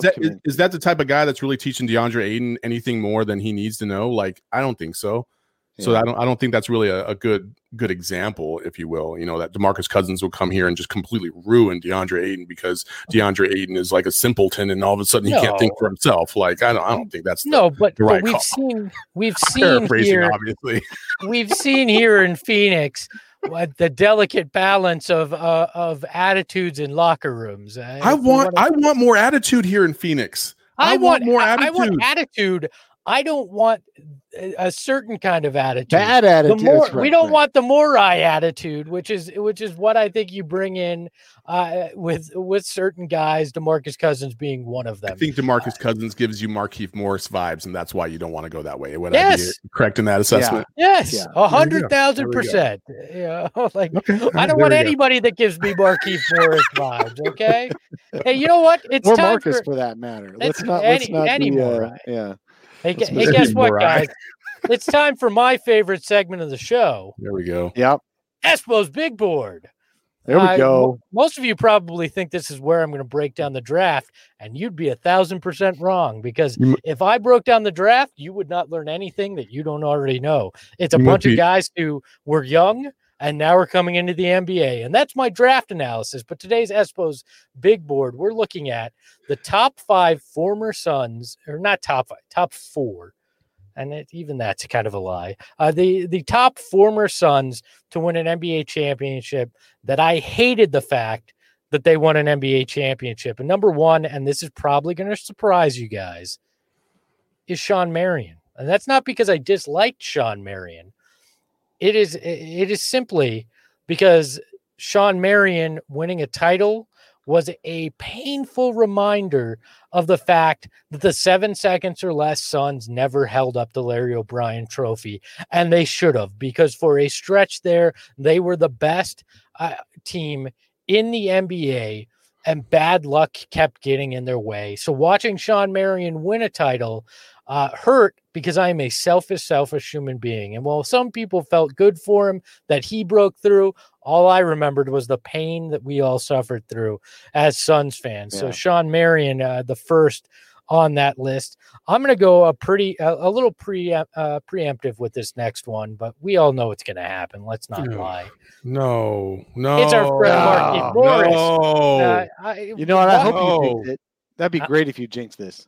that the type of guy that's really teaching DeAndre Ayton anything more than he needs to know? Like I don't think so. So I don't think that's really a good example, if you will. That DeMarcus Cousins will come here and just completely ruin DeAndre Ayton because DeAndre Ayton is like a simpleton, and all of a sudden he can't think for himself. Like I don't think that's but right we've call. seen here, obviously. We've seen here in Phoenix the delicate balance of attitudes in locker rooms. I want more attitude here in Phoenix. I want more attitude. I want attitude. I don't want a certain kind of attitude. Bad attitude. We don't want the Morai attitude, which is what I think you bring in with certain guys. DeMarcus Cousins being one of them. I think DeMarcus Cousins gives you Markieff Morris vibes, and that's why you don't want to go that way. Would I be correct in that assessment? Yeah. Yes, 100,000%. Yeah, I don't want anybody that gives me Markieff Morris vibes. Okay. Hey, you know what? It's or time Marcus for that matter. Let's not anymore. Yeah. Hey, guess what, guys? It's time for my favorite segment of the show. There we go. Yep. Espo's Big Board. There we go. Most of you probably think this is where I'm going to break down the draft, and you'd be 1,000% wrong because if I broke down the draft, you would not learn anything that you don't already know. It's a bunch of guys who were young and now we're coming into the NBA, and that's my draft analysis. But today's Espo's Big Board, we're looking at the top 5 former Suns, or not top 5, top 4. And even that's kind of a lie. The top former Suns to win an NBA championship that I hated the fact that they won an NBA championship. And number 1, and this is probably going to surprise you guys, is Shawn Marion. And that's not because I disliked Shawn Marion. It is simply because Shawn Marion winning a title was a painful reminder of the fact that the 7 seconds or less Suns never held up the Larry O'Brien trophy. And they should have, because for a stretch there, they were the best team in the NBA, and bad luck kept getting in their way. So watching Shawn Marion win a title hurt because I am a selfish human being. And while some people felt good for him that he broke through, all I remembered was the pain that we all suffered through as Suns fans. Yeah. So Shawn Marion, the first on that list. I'm going to go a little preemptive with this next one, but we all know it's going to happen. Let's not lie. No. It's our friend Markieff Morris. No. You know what? I hope you jinx it. That'd be great if you jinx this.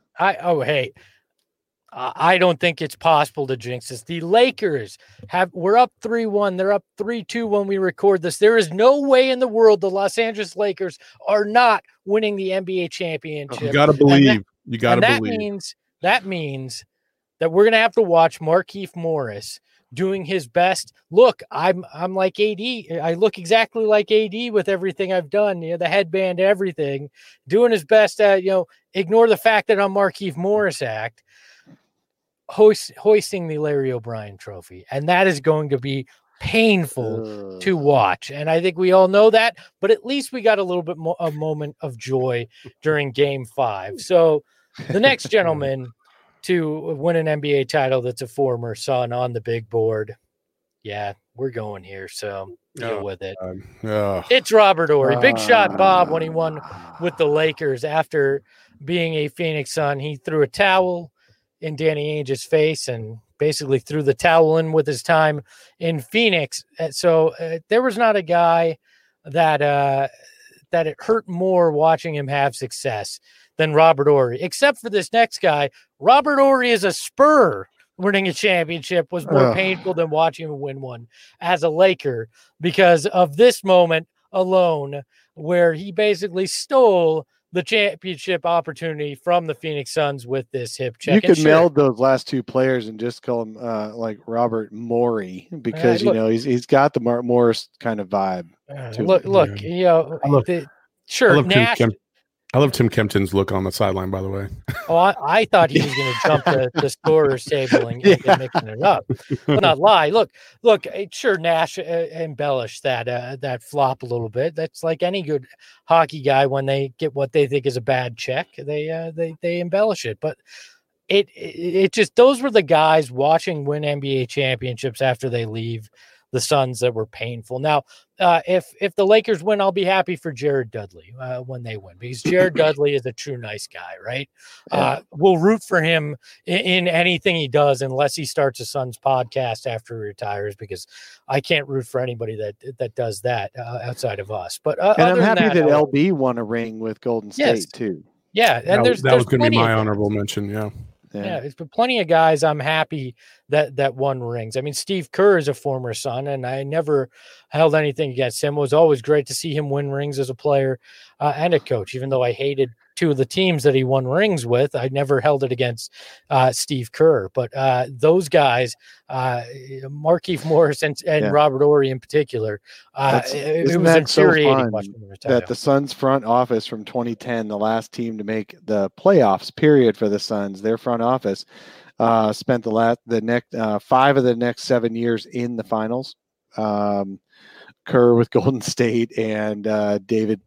I don't think it's possible to jinx this. The Lakers we're up 3-1. They're up 3-2 when we record this. There is no way in the world the Los Angeles Lakers are not winning the NBA championship. You got to believe. That means that we're going to have to watch Markieff Morris doing his best. Look, I'm like AD. I look exactly like AD with everything I've done, the headband, everything, doing his best at, ignore the fact that I'm Markieff Morris act. Hoisting the Larry O'Brien trophy, and that is going to be painful to watch. And I think we all know that, but at least we got a little bit more a moment of joy during Game 5. So the next gentleman to win an NBA title that's a former Sun on the big board, yeah, we're going here. So deal with it. It's Robert Horry. Big shot Bob when he won with the Lakers after being a Phoenix Sun. He threw a towel in Danny Ainge's face and basically threw the towel in with his time in Phoenix. So there was not a guy that it hurt more watching him have success than Robert Horry, except for this next guy. Robert Horry is a Spur. Winning a championship was more painful than watching him win one as a Laker because of this moment alone, where he basically stole the championship opportunity from the Phoenix Suns with this hip check. You could meld those last two players and just call him like Robert Morey, because he's got the Mark Morris kind of vibe. Nash. I love Tim Kempton's look on the sideline, by the way. I thought he was going to jump the scorer's table and mixing it up. Well, not lie. Look. Sure, Nash embellished that flop a little bit. That's like any good hockey guy when they get what they think is a bad check, they embellish it. But it just, those were the guys watching win NBA championships after they leave the Suns that were painful. Now, if the Lakers win, I'll be happy for Jared Dudley when they win, because Jared Dudley is a true nice guy, right? Yeah. We'll root for him in anything he does, unless he starts a Suns podcast after he retires, because I can't root for anybody that does that outside of us. But and I'm happy that LB won a ring with Golden State too. Yeah, and that was going to be my honorable mention. Yeah, there's been plenty of guys I'm happy that won rings. I mean, Steve Kerr is a former Sun, and I never held anything against him. It was always great to see him win rings as a player and a coach, even though I hated two of the teams that he won rings with. I never held it against Steve Kerr. But those guys, Markieff Morris and Robert Horry in particular, it was infuriating watching them retire. That the Suns front office from 2010, the last team to make the playoffs, period, for the Suns, their front office spent the next 5 of the next 7 years in the finals. Kerr with Golden State and David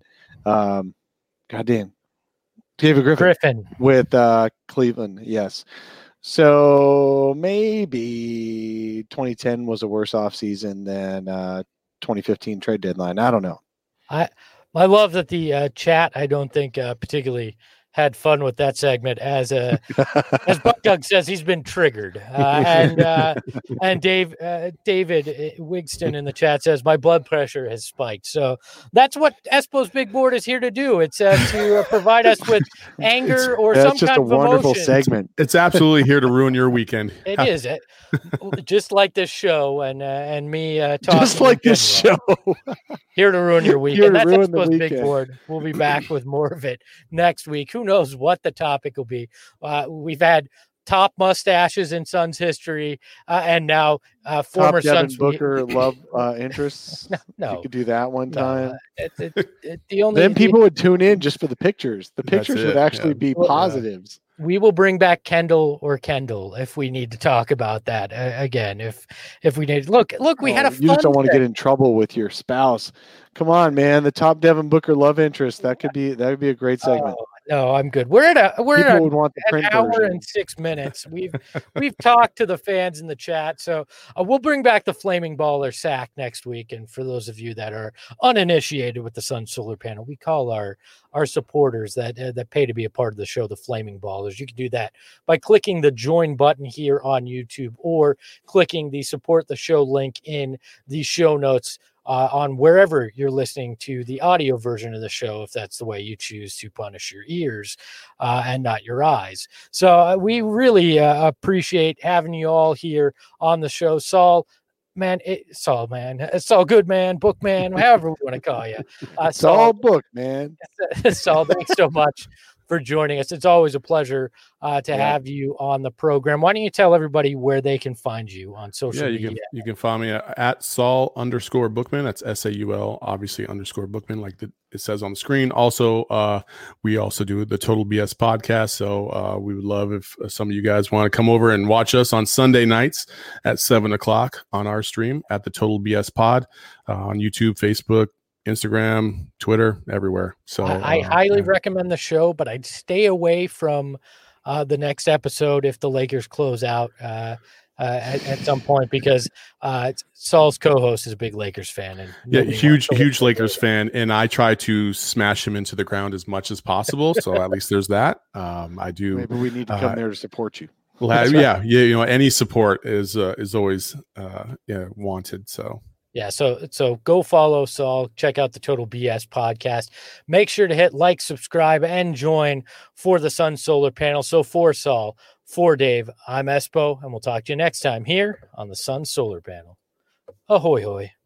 Griffin with Cleveland. Yes. So maybe 2010 was a worse offseason than 2015 trade deadline. I don't know. I love that the chat, I don't think particularly had fun with that segment, as Buck Doug says, he's been triggered. And David Wigston in the chat says, my blood pressure has spiked. So that's what Espo's Big Board is here to do. It's to provide us with anger or some kind of emotion. That's just a wonderful segment. It's absolutely here to ruin your weekend. It is. Just like this show and me talking. Just like this show. Here to ruin your weekend. That's Espo's Big Board. We'll be back with more of it next week. Who knows what the topic will be? We've had top mustaches in Suns history, and now former Suns Booker love interests. No, you could do that one time. Then people would tune in just for the pictures. The pictures would actually be positives. We will bring back Kendall if we need to talk about that again. If we need, look, we had a fun. You just don't want to get in trouble with your spouse. Come on, man. The top Devin Booker love interest. That would be a great segment. No, I'm good. We're at would want the an print hour version. and 6 minutes. We've talked to the fans in the chat, so we'll bring back the Flaming Baller sack next week. And for those of you that are uninitiated with the Sun Solar Panel, we call our supporters that pay to be a part of the show the Flaming Ballers. You can do that by clicking the join button here on YouTube or clicking the support the show link in the show notes on wherever you're listening to the audio version of the show, if that's the way you choose to punish your ears and not your eyes. So we really appreciate having you all here on the show. Saul, Goodman, Bookman, however we want to call you. Saul Bookman. Saul, thanks so much for joining us. It's always a pleasure to have you on the program. Why don't you tell everybody where they can find you on social media? You can find me at Saul_Bookman. That's SAUL, obviously _Bookman, like it says on the screen. Also, we also do the Total BS podcast. So we would love if some of you guys want to come over and watch us on Sunday nights at 7:00 on our stream at the Total BS Pod on YouTube, Facebook, Instagram, Twitter, everywhere. So I highly recommend the show, but I'd stay away from the next episode if the Lakers close out at some point, because Saul's co-host is a big Lakers fan. And huge Lakers fan. And I try to smash him into the ground as much as possible. So at least there's that. I do. Maybe we need to come there to support you. Any support is always wanted. So. Yeah, so go follow Saul, check out the Total BS podcast. Make sure to hit like, subscribe, and join for the Sun Solar Panel. So for Saul, for Dave, I'm Espo, and we'll talk to you next time here on the Sun Solar Panel. Ahoy, hoy.